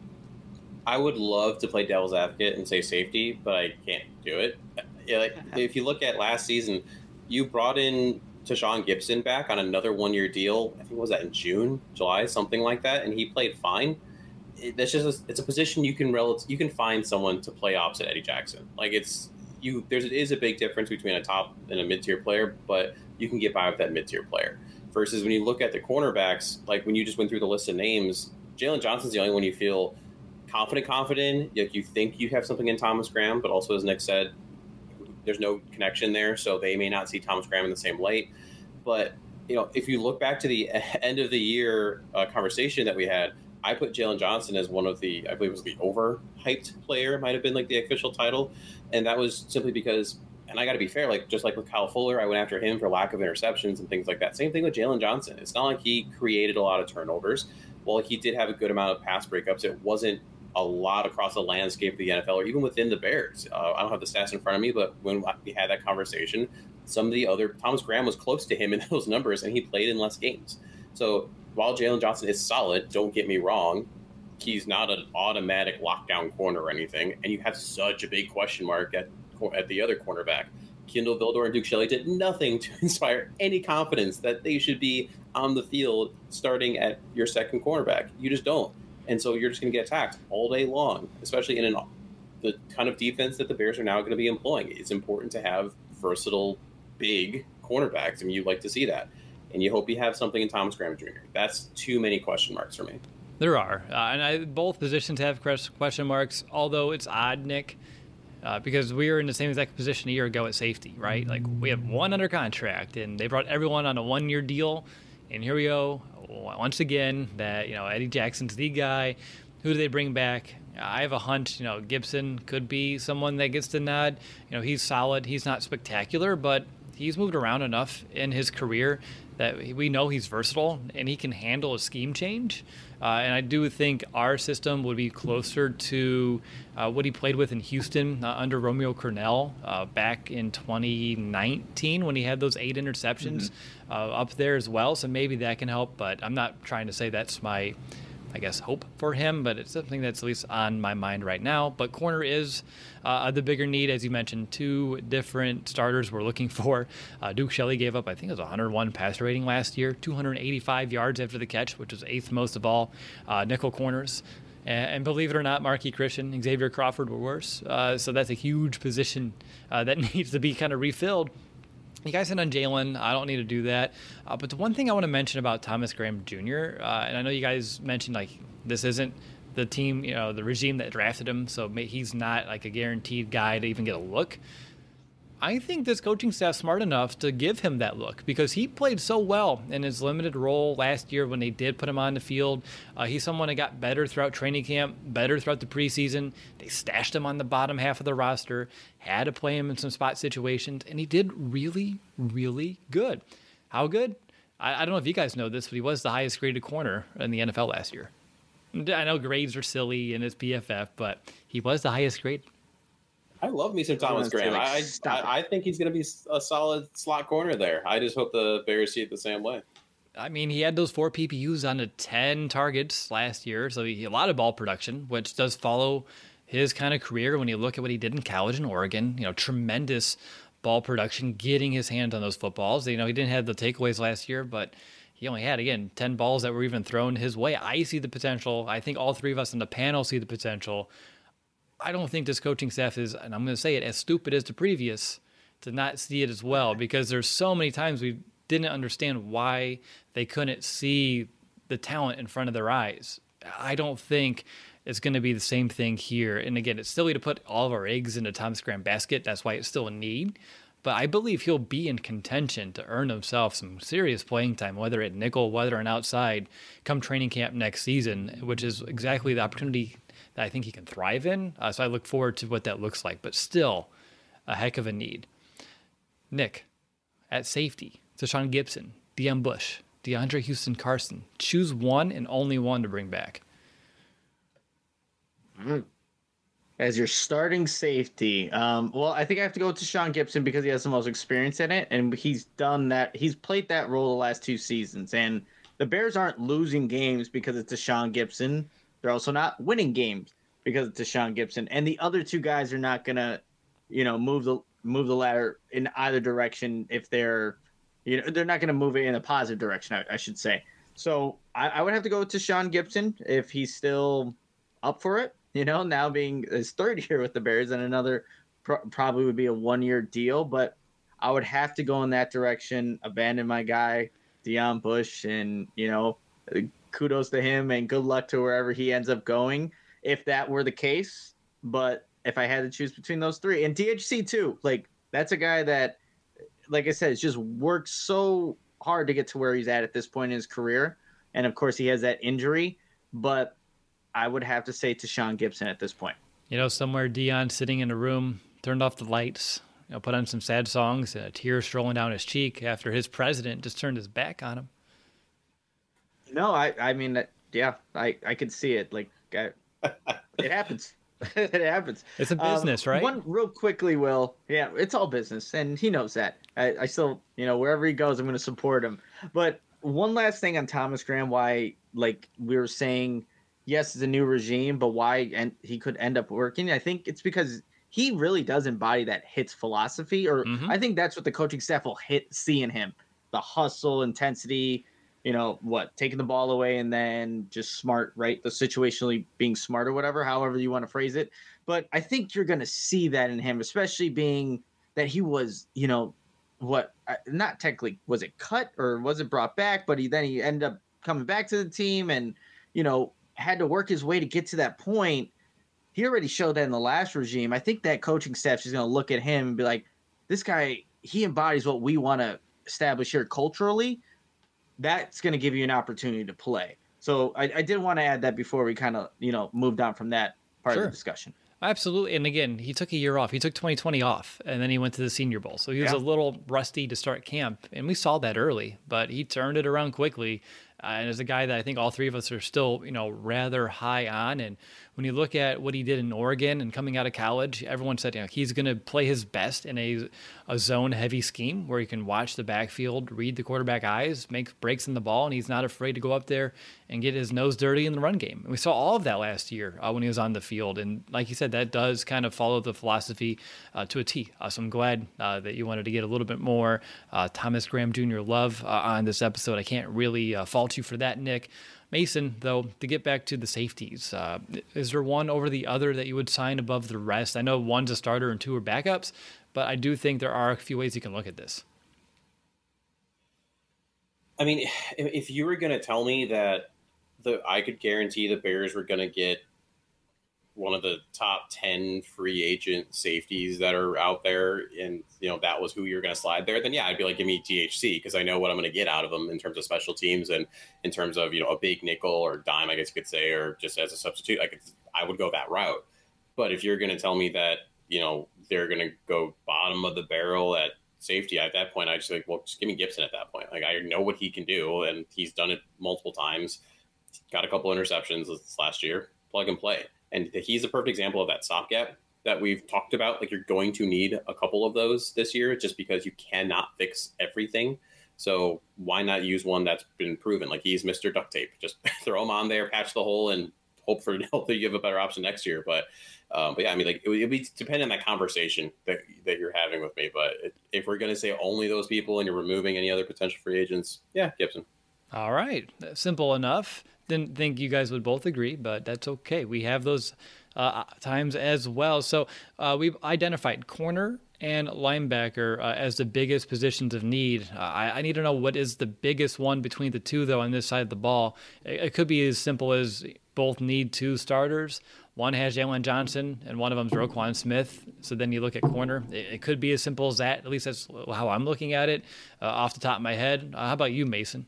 I would love to play devil's advocate and say safety, but I can't do it. Yeah, like, if you look at last season, you brought in Tashawn Gibson back on another one-year deal. I think what was that in June, July, something like that, and he played fine. It, that's just a, it's a position you can rel- you can find someone to play opposite Eddie Jackson. Like it's you. There's it is a big difference between a top and a mid-tier player, but you can get by with that mid-tier player. Versus when you look at the cornerbacks, like when you just went through the list of names, Jalen Johnson's the only one you feel confident, confident. Like you think you have something in Thomas Graham, but also as Nick said, there's no connection there, so they may not see Thomas Graham in the same light. But you know, if you look back to the end of the year uh, conversation that we had, I put Jalen Johnson as one of the, I believe it was the overhyped player, might have been like the official title, and that was simply because. And I got to be fair, like just like with Kyle Fuller, I went after him for lack of interceptions and things like that. Same thing with Jalen Johnson. It's not like he created a lot of turnovers. While he did have a good amount of pass breakups, it wasn't a lot across the landscape of the N F L or even within the Bears. Uh, I don't have the stats in front of me, but when we had that conversation, some of the other, Thomas Graham was close to him in those numbers, and he played in less games. So while Jalen Johnson is solid, don't get me wrong, he's not an automatic lockdown corner or anything, and you have such a big question mark at at the other cornerback. Kindle Vildor and Duke Shelley did nothing to inspire any confidence that they should be on the field starting at your second cornerback. You just don't. And so you're just going to get attacked all day long, especially in an, the kind of defense that the Bears are now going to be employing. It's important to have versatile, big cornerbacks. I mean, you'd like to see that. And you hope you have something in Thomas Graham Junior That's too many question marks for me. There are. Uh, and I, both positions have question marks, although it's odd, Nick, Uh, because we were in the same exact position a year ago at safety, right? Like we have one under contract, and they brought everyone on a one-year deal, and here we go once again. That you know Eddie Jackson's the guy. Who do they bring back? I have a hunch. You know Gibson could be someone that gets the nod. You know he's solid. He's not spectacular, but he's moved around enough in his career that we know he's versatile and he can handle a scheme change. Uh, and I do think our system would be closer to uh, what he played with in Houston uh, under Romeo Crennel uh, back in twenty nineteen when he had those eight interceptions mm-hmm. uh, up there as well. So maybe that can help, but I'm not trying to say that's my, I guess, hope for him, but it's something that's at least on my mind right now. But corner is uh, the bigger need, as you mentioned. Two different starters we're looking for. Uh, Duke Shelley gave up, I think it was one hundred one passer rating last year, two hundred eighty-five yards after the catch, which was eighth most of all uh, nickel corners. And, and believe it or not, Marquis Christian, Xavier Crawford were worse. Uh, so that's a huge position uh, that needs to be kind of refilled. You guys hit on Jalen. I don't need to do that. Uh, but the one thing I want to mention about Thomas Graham Junior, uh, and I know you guys mentioned like this isn't the team, you know, the regime that drafted him, so he's not like a guaranteed guy to even get a look. I think this coaching staff's smart enough to give him that look because he played so well in his limited role last year when they did put him on the field. Uh, he's someone that got better throughout training camp, better throughout the preseason. They stashed him on the bottom half of the roster, had to play him in some spot situations, and he did really, really good. How good? I, I don't know if you guys know this, but he was the highest graded corner in the N F L last year. I know grades are silly in his P F F, but he was the highest grade. I love me some Thomas Graham. Like, I, I I think he's going to be a solid slot corner there. I just hope the Bears see it the same way. I mean, he had those four P P Us on the ten targets last year, so he a lot of ball production, which does follow his kind of career when you look at what he did in college in Oregon. You know, tremendous ball production, getting his hands on those footballs. You know, he didn't have the takeaways last year, but he only had, again, ten balls that were even thrown his way. I see the potential. I think all three of us on the panel see the potential. I don't think this coaching staff is, and I'm going to say it, as stupid as the previous to not see it as well, because there's so many times we didn't understand why they couldn't see the talent in front of their eyes. I don't think it's going to be the same thing here. And again, it's silly to put all of our eggs into Thomas Graham basket. That's why it's still a need. But I believe he'll be in contention to earn himself some serious playing time, whether at nickel, whether on outside, come training camp next season, which is exactly the opportunity that I think he can thrive in. Uh, so I look forward to what that looks like, but still a heck of a need. Nick, at safety, Tashaun Gipson, Deon Bush, DeAndre Houston Carson. Choose one and only one to bring back. As your starting safety, um, well, I think I have to go with Tashaun Gipson because he has the most experience in it, and he's done that. He's played that role the last two seasons, and the Bears aren't losing games because it's Tashaun Gipson. They're also not winning games because it's Tashaun Gipson, and the other two guys are not gonna, you know, move the move the ladder in either direction if they're, you know, they're not gonna move it in a positive direction. I, I should say. So I, I would have to go with Tashaun Gipson if he's still up for it. You know, now being his third year with the Bears, and another pro- probably would be a one year deal, but I would have to go in that direction. Abandon my guy Deon Bush, and you know. Kudos to him and good luck to wherever he ends up going if that were the case. But if I had to choose between those three, and D H C too, like that's a guy that, like I said, has just worked so hard to get to where he's at at this point in his career. And of course he has that injury, but I would have to say Tashaun Gipson at this point. You know, somewhere Deon sitting in a room, turned off the lights, you know, put on some sad songs, and a tear strolling down his cheek after his president just turned his back on him. No, I, I mean, yeah, I, I could see it. Like, I, it happens. It happens. It's a business, um, right? One real quickly, Will. Yeah, it's all business, and he knows that. I, I still, you know, wherever he goes, I'm going to support him. But one last thing on Thomas Graham, why, like we were saying, yes, it's a new regime, but why and he could end up working. I think it's because he really does embody that hits philosophy, or mm-hmm. I think that's what the coaching staff will hit see in him: the hustle, intensity. You know, what, taking the ball away and then just smart, right? The situationally being smart or whatever, however you want to phrase it. But I think you're going to see that in him, especially being that he was, you know, what, not technically, was it cut or was it brought back? But he then he ended up coming back to the team and, you know, had to work his way to get to that point. He already showed that in the last regime. I think that coaching staff is going to look at him and be like, this guy, he embodies what we want to establish here culturally. That's going to give you an opportunity to play. So I, I did want to add that before we kind of, you know, moved on from that part sure. of the discussion. Absolutely. And again, he took a year off. He took twenty twenty off, and then he went to the Senior Bowl. So he was yeah. a little rusty to start camp, and we saw that early, but he turned it around quickly. Uh, and as a guy that I think all three of us are still, you know, rather high on. And when you look at what he did in Oregon and coming out of college, everyone said, you know, he's going to play his best in a, a zone-heavy scheme where he can watch the backfield, read the quarterback eyes, make breaks in the ball, and he's not afraid to go up there and get his nose dirty in the run game. And we saw all of that last year uh, when he was on the field. And like you said, that does kind of follow the philosophy uh, to a T. Uh, so I'm glad uh, that you wanted to get a little bit more uh, Thomas Graham Junior love uh, on this episode. I can't really uh, fault you for that, Nick. Mason, though, to get back to the safeties, uh, is there one over the other that you would sign above the rest? I know one's a starter and two are backups, but I do think there are a few ways you can look at this. I mean, if you were going to tell me that the I could guarantee the Bears were going to get one of the top ten free agent safeties that are out there, and you know that was who you're going to slide there, then yeah, I'd be like, give me T H C, because I know what I'm going to get out of them in terms of special teams and in terms of, you know, a big nickel or dime, I guess you could say, or just as a substitute. I could I would go that route. But if you're going to tell me that, you know, they're going to go bottom of the barrel at safety, at that point, I just like, well, just give me Gibson at that point. Like, I know what he can do, and he's done it multiple times. Got a couple interceptions this last year. Plug and play. And he's a perfect example of that stopgap that we've talked about. Like, you're going to need a couple of those this year just because you cannot fix everything. So why not use one that's been proven? Like, he's Mister Duct Tape. Just throw him on there, patch the hole, and hope for hopefully you have a better option next year. But, um, but yeah, I mean, like, it would, it would be depending on that conversation that that you're having with me. But it, if we're going to say only those people and you're removing any other potential free agents, yeah, Gibson. All right. Simple enough. Didn't think you guys would both agree, but that's okay. We have those uh, times as well. So uh, we've identified corner and linebacker uh, as the biggest positions of need. Uh, I, I need to know what is the biggest one between the two, though, on this side of the ball. It, it could be as simple as both need two starters. One has Jalen Johnson, and one of them is Roquan Smith. So then you look at corner. It, it could be as simple as that. At least that's how I'm looking at it uh, off the top of my head. Uh, how about you, Mason?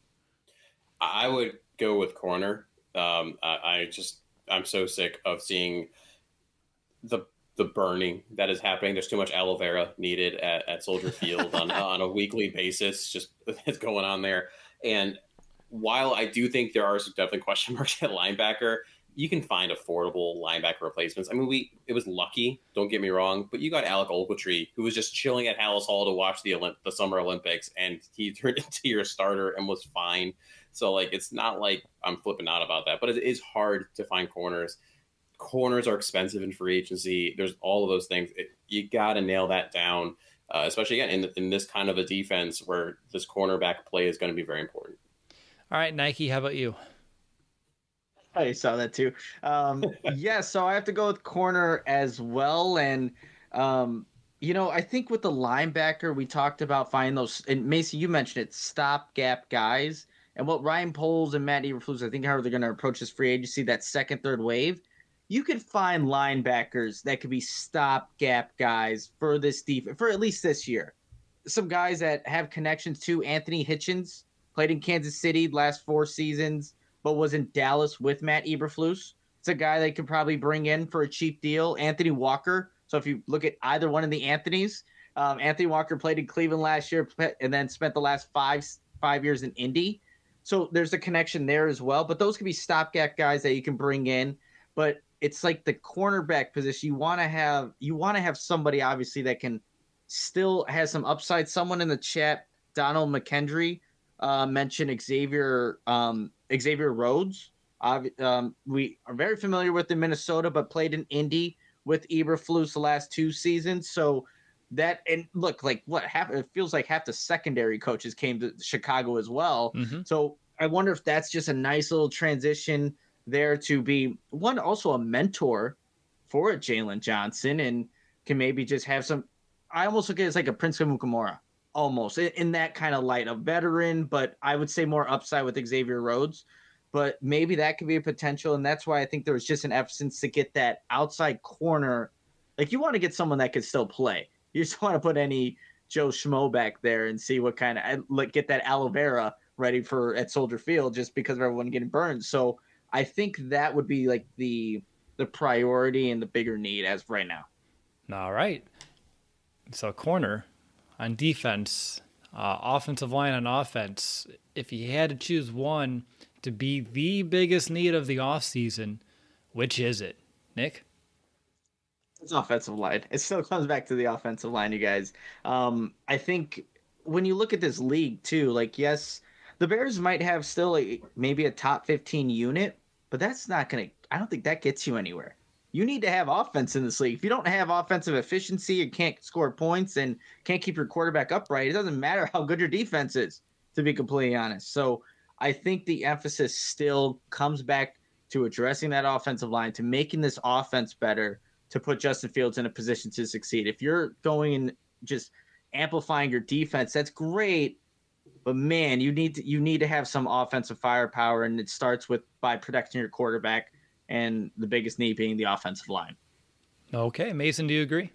I would go with corner. Um, I, I just I'm so sick of seeing the the burning that is happening. There's too much aloe vera needed at, at Soldier Field on on a weekly basis. Just it's going on there. And while I do think there are some definitely question marks at linebacker, you can find affordable linebacker replacements. I mean, we it was lucky. Don't get me wrong, but you got Alec Ogletree, who was just chilling at Hallis Hall to watch the Olymp- the Summer Olympics, and he turned into your starter and was fine. So, like, it's not like I'm flipping out about that, but it is hard to find corners. Corners are expensive in free agency. There's all of those things. It, you got to nail that down, uh, especially, again, in, in this kind of a defense where this cornerback play is going to be very important. All right, Nike, how about you? I saw that too. Um, yeah, so I have to go with corner as well. And, um, you know, I think with the linebacker, we talked about finding those, and Macy, you mentioned it, stopgap guys. And what Ryan Poles and Matt Eberflus, I think how they're going to approach this free agency, that second, third wave, you could find linebackers that could be stopgap guys for this defense, for at least this year. Some guys that have connections to Anthony Hitchens, played in Kansas City last four seasons, but was in Dallas with Matt Eberflus. It's a guy they could probably bring in for a cheap deal. Anthony Walker. So if you look at either one of the Anthonys, um, Anthony Walker played in Cleveland last year and then spent the last five five years in Indy. So there's a connection there as well. But those could be stopgap guys that you can bring in. But it's like the cornerback position. You want to have you want to have somebody obviously that can still has some upside. Someone in the chat, Donald McKendry, uh, mentioned Xavier um, Xavier Rhodes. Uh, um, we are very familiar with in Minnesota, but played in Indy with Eberflus the last two seasons. So that and look like what half it feels like half the secondary coaches came to Chicago as well. Mm-hmm. So I wonder if that's just a nice little transition there to be one also a mentor for Jalen Johnson and can maybe just have some. I almost look at it as like a Prince Mukamura, almost in, in that kind of light, a veteran, but I would say more upside with Xavier Rhodes. But maybe that could be a potential, and that's why I think there was just an emphasis to get that outside corner. Like you want to get someone that could still play. You just want to put any Joe Schmo back there and see what kind of like get that aloe vera ready for at Soldier Field just because of everyone getting burned. So I think that would be like the the priority and the bigger need as of right now. All right. So corner on defense, uh, offensive line on offense. If you had to choose one to be the biggest need of the offseason, which is it, Nick? It's offensive line. It still comes back to the offensive line, you guys. Um, I think when you look at this league too, like, yes, the Bears might have still a, maybe a top fifteen unit, but that's not going to, I don't think that gets you anywhere. You need to have offense in this league. If you don't have offensive efficiency and can't score points and can't keep your quarterback upright, it doesn't matter how good your defense is, to be completely honest. So I think the emphasis still comes back to addressing that offensive line, to making this offense better, to put Justin Fields in a position to succeed. If you're going and just amplifying your defense, that's great, But man, you need to you need to have some offensive firepower, and it starts with by protecting your quarterback, and the biggest need being the offensive line. Okay, Mason, do you agree?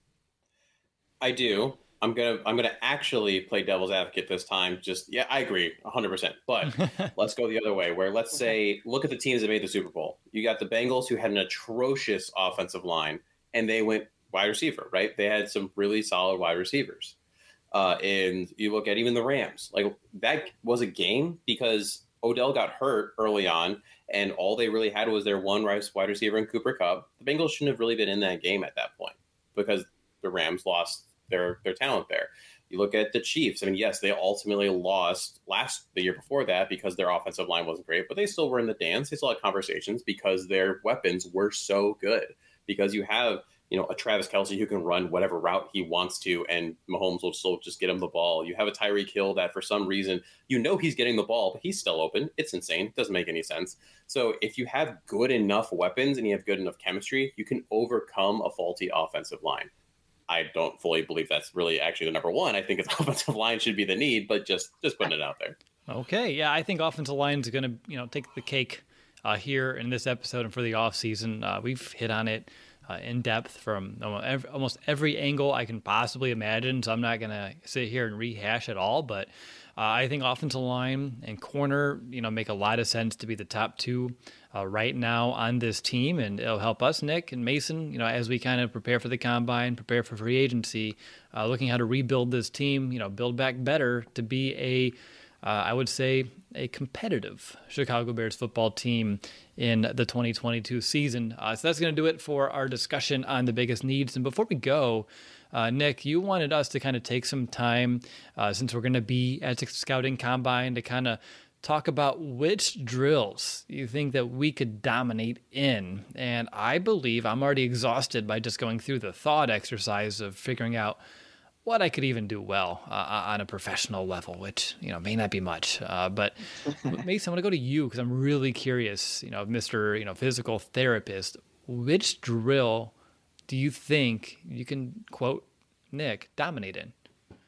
I do. I'm gonna I'm gonna actually play devil's advocate this time. Just yeah, I agree one hundred percent. But let's go the other way. Where let's say look at the teams that made the Super Bowl. You got the Bengals, who had an atrocious offensive line, and they went wide receiver. Right? They had some really solid wide receivers. Uh, and you look at even the Rams, like that was a game because Odell got hurt early on, and all they really had was their one wide receiver in Cooper Kupp. The Bengals shouldn't have really been in that game at that point because the Rams lost their their talent there. You look at the Chiefs. I mean, yes, they ultimately lost last the year before that because their offensive line wasn't great, but they still were in the dance. They still had conversations because their weapons were so good. Because you have you know, a Travis Kelce who can run whatever route he wants to, and Mahomes will still just get him the ball. You have a Tyreek Hill that for some reason, you know he's getting the ball, but he's still open. It's insane. It doesn't make any sense. So if you have good enough weapons and you have good enough chemistry, you can overcome a faulty offensive line. I don't fully believe that's really actually the number one. I think its offensive line should be the need, but just just putting it out there. Okay, yeah, I think offensive line is going to you know take the cake uh, here in this episode and for the offseason. Uh, we've hit on it Uh, in depth from almost every angle I can possibly imagine. So I'm not going to sit here and rehash it all, but uh, I think offensive line and corner, you know, make a lot of sense to be the top two uh, right now on this team. And it'll help us, Nick and Mason, you know, as we kind of prepare for the combine, prepare for free agency, uh, looking how to rebuild this team, you know, build back better to be a, uh, I would say, a competitive Chicago Bears football team in the twenty twenty-two season. Uh, so that's going to do it for our discussion on the biggest needs. And before we go, uh, Nick, you wanted us to kind of take some time, uh, since we're going to be at the scouting combine, to kind of talk about which drills you think that we could dominate in. And I believe I'm already exhausted by just going through the thought exercise of figuring out what I could even do well uh, on a professional level, which, you know, may not be much. Uh, but Mason, I want to go to you because I'm really curious, you know, Mister you know, physical therapist, which drill do you think you can, quote, Nick, dominate in?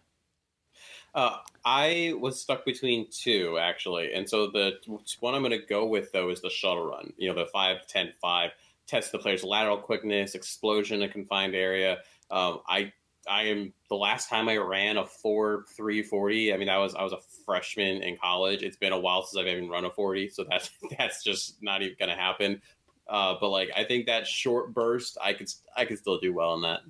Uh, I was stuck between two, actually. And so the one I'm going to go with, though, is the shuttle run. You know, the five ten five, test the player's lateral quickness, explosion in a confined area. Um, I I am the last time I ran a four three forty. I mean, I was I was a freshman in college. It's been a while since I've even run a forty, so that's that's just not even going to happen. Uh, but like, I think that short burst, I could I could still do well in that.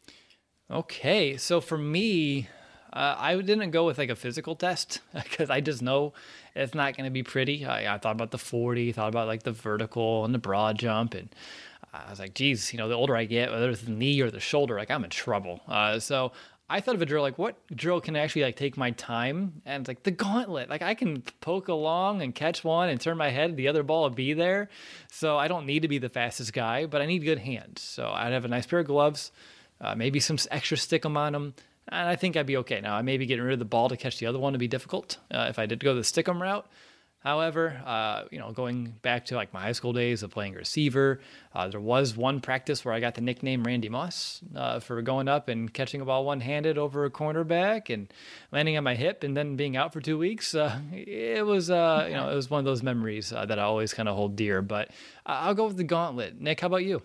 Okay, so for me, uh, I didn't go with like a physical test because I just know it's not going to be pretty. I, I thought about the forty, thought about like the vertical and the broad jump, and I was like, geez, you know, the older I get, whether it's the knee or the shoulder, like I'm in trouble. Uh, so I thought of a drill, like what drill can actually like take my time? And it's like the gauntlet. Like I can poke along and catch one and turn my head, the other ball will be there. So I don't need to be the fastest guy, but I need good hands. So I'd have a nice pair of gloves, uh, maybe some extra stick-em on them, and I think I'd be okay. Now, I may be getting rid of the ball to catch the other one to be difficult uh, if I did go the stick-em route. However, uh, you know, going back to like my high school days of playing receiver, uh, there was one practice where I got the nickname Randy Moss uh, for going up and catching a ball one-handed over a cornerback and landing on my hip and then being out for two weeks. Uh, it was, uh, you know, it was one of those memories uh, that I always kind of hold dear. But uh, I'll go with the gauntlet. Nick, how about you?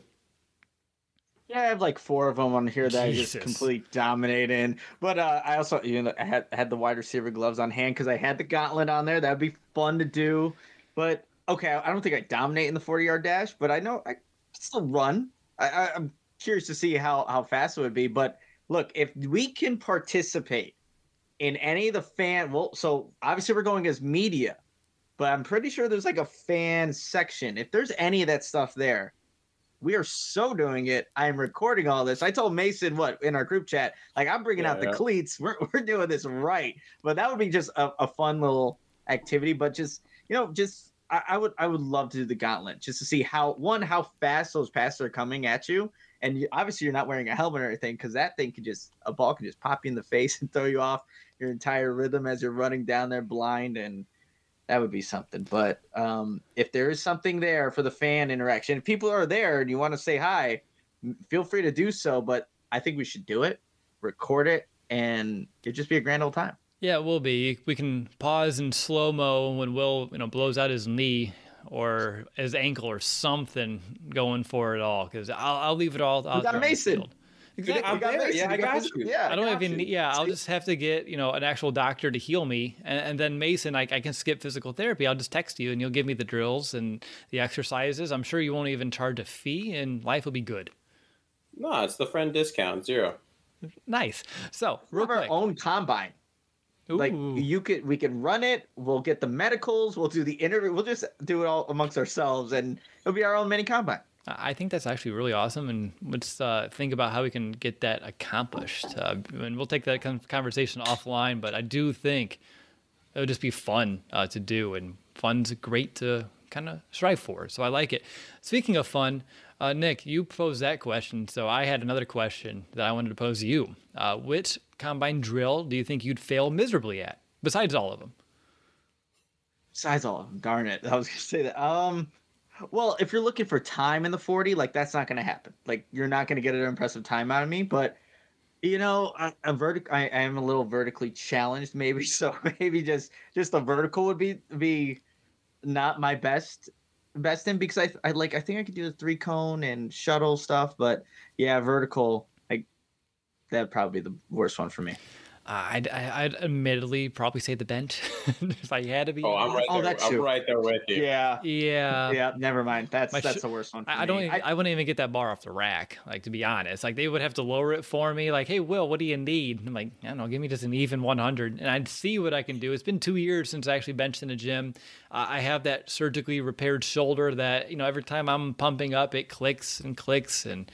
Yeah, I have like four of them on here that Jesus. I just completely dominate in. But uh, I also, you know, I had I had the wide receiver gloves on hand because I had the gauntlet on there. That'd be fun to do. But okay, I don't think I dominate in the forty-yard dash, but I know I still run. I, I, I'm curious to see how how fast it would be. But look, if we can participate in any of the fan, well, so obviously we're going as media, but I'm pretty sure there's like a fan section. If there's any of that stuff there, we are so doing it. I'm recording all this. I told Mason what in our group chat, like I'm bringing yeah, out the yeah. cleats. We're we're doing this right. But that would be just a, a fun little activity. But just you know, just I, I would I would love to do the gauntlet just to see how one how fast those passes are coming at you. And you, obviously you're not wearing a helmet or anything because that thing could just a ball can just pop you in the face and throw you off your entire rhythm as you're running down there blind, and that would be something. But um, if there is something there for the fan interaction, if people are there and you want to say hi, feel free to do so. But I think we should do it, record it, and it'd just be a grand old time. Yeah, it will be. We can pause in slow mo when Will, you know, blows out his knee or his ankle or something going for it all. Because I'll, I'll leave it all out we got there on the Mason. field. Exactly. I'm there. Yeah, I got you. Yeah, I don't I even. you. Yeah, I'll See? just have to get you know an actual doctor to heal me, and, and then Mason, I, I can skip physical therapy. I'll just text you, and you'll give me the drills and the exercises. I'm sure you won't even charge a fee, and life will be good. No, it's the friend discount zero. Nice. So We real have our quick. own combine. Like Ooh. you could, we can run it. We'll get the medicals. We'll do the interview. We'll just do it all amongst ourselves, and it'll be our own mini combine. I think that's actually really awesome, and let's uh, think about how we can get that accomplished. Uh, and we'll take that con- conversation offline, but I do think it would just be fun uh, to do, and fun's great to kind of strive for. So I like it. Speaking of fun, uh, Nick, you posed that question, so I had another question that I wanted to pose to you. Uh, which combine drill do you think you'd fail miserably at, besides all of them? Besides all of them, darn it, I was gonna say that. Um, well, if you're looking for time in the forty, like that's not gonna happen. Like you're not gonna get an impressive time out of me. But you know, a, a vertic, I, I am a little vertically challenged, maybe. So maybe just just the vertical would be be not my best best in because I I like I think I could do the three cone and shuttle stuff, but yeah, vertical. Like that'd probably be the worst one for me. Uh, I'd, I'd admittedly probably say the bench if I had to be. Oh, I'm right Oh, there. that's I'm true. right there with you. Yeah. Yeah. Yeah, never mind. That's My that's sh- the worst one. For I, I me. don't. Even, I, wouldn't even get that bar off the rack. Like to be honest, like they would have to lower it for me. Like, hey, Will, what do you need? And I'm like, I don't know. Give me just an even one hundred, and I'd see what I can do. It's been two years since I actually benched in a gym. Uh, I have that surgically repaired shoulder that you know every time I'm pumping up, it clicks and clicks, and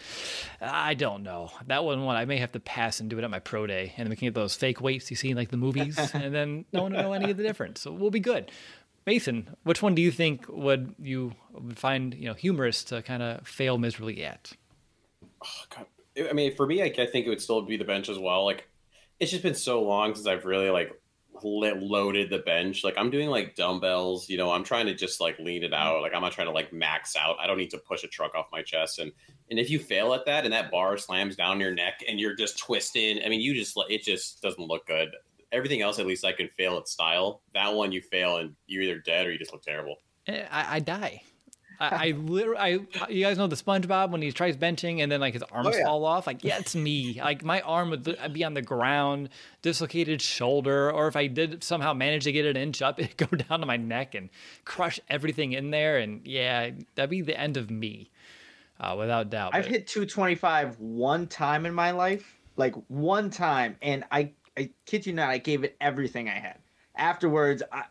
I don't know. That one, one I may have to pass and do it at my pro day, and we can get those fake weights you see in like the movies, and then no one will know any of the difference. So we'll be good. Mason, which one do you think would you would find you know humorous to kind of fail miserably at? Oh, God. I mean, for me, I, I think it would still be the bench as well. Like, it's just been so long since I've really like lit, loaded the bench. Like, I'm doing like dumbbells. You know, I'm trying to just like lean it out. Like, I'm not trying to like max out. I don't need to push a truck off my chest. And and if you fail at that, and that bar slams down your neck, and you're just twisted, I mean, you just it just doesn't look good. Everything else, at least I can fail at style. That one, you fail and you're either dead or you just look terrible. Eh, I, I die. I, I literally, I, you guys know the SpongeBob when he tries benching and then like his arms Oh, yeah. fall off. Like, yeah, it's me. Like my arm would be on the ground, dislocated shoulder, or if I did somehow manage to get it an inch up, it'd go down to my neck and crush everything in there. And yeah, that'd be the end of me, uh, without doubt. I've But- hit two twenty-five one time in my life, like one time, and I, I kid you not, I gave it everything I had. Afterwards, I,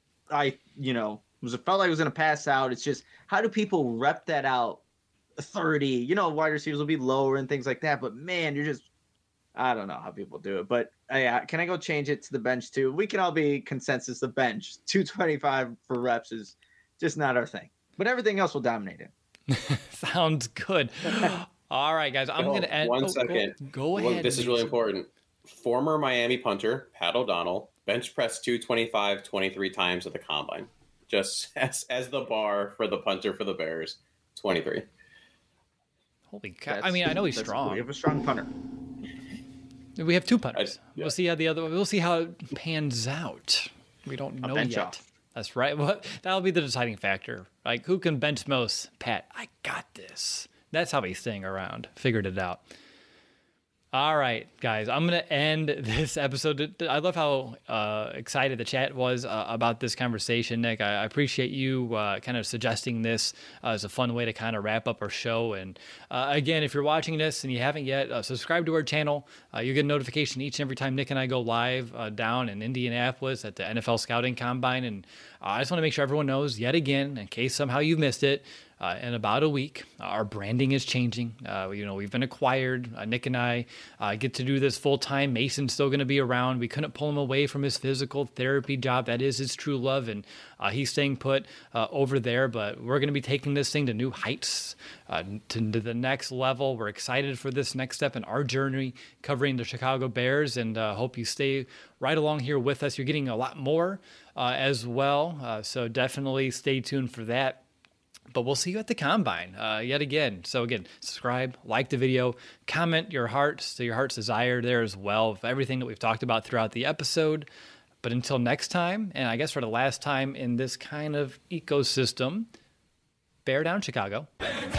I, you know, was felt like I was gonna pass out. It's just how do people rep that out? thirty, you know, wide receivers will be lower and things like that. But man, you're just, I don't know how people do it. But uh, yeah, can I go change it to the bench too? We can all be consensus. The bench, two twenty-five for reps is just not our thing. But everything else will dominate it. Sounds good. All right, guys, I'm Oh, going to end. one oh, second. Go, go Well, ahead. this is really Mason. important. Former Miami punter Pat O'Donnell bench pressed two twenty-five twenty-three times at the combine, just as as the bar for the punter for the Bears, twenty-three. Holy cow. I That's- mean, I know he's that's- strong. We have a strong punter. We have two punters. I- yeah. We'll see how the other. We'll see how it pans out. We don't A know bench yet. off. That's right. Well, that'll be the deciding factor. Like, who can bench most? Pat, I got this. That's how he's staying around. Figured it out. All right, guys, I'm going to end this episode. I love how uh, excited the chat was uh, about this conversation, Nick. I, I appreciate you uh, kind of suggesting this uh, as a fun way to kind of wrap up our show. And uh, again, if you're watching this and you haven't yet, uh, subscribe to our channel. Uh, you get a notification each and every time Nick and I go live uh, down in Indianapolis at the N F L Scouting Combine. And uh, I just want to make sure everyone knows yet again, in case somehow you missed it, Uh, in about a week, our branding is changing. Uh, you know, we've been acquired. Uh, Nick and I uh, get to do this full time. Mason's still going to be around. We couldn't pull him away from his physical therapy job. That is his true love, and uh, he's staying put uh, over there. But we're going to be taking this thing to new heights, uh, to, to the next level. We're excited for this next step in our journey, covering the Chicago Bears, and uh, hope you stay right along here with us. You're getting a lot more uh, as well, uh, so definitely stay tuned for that. But we'll see you at the Combine uh, yet again. So again, subscribe, like the video, comment your hearts to your heart's desire there as well of everything that we've talked about throughout the episode. But until next time, and I guess for the last time in this kind of ecosystem, bear down, Chicago.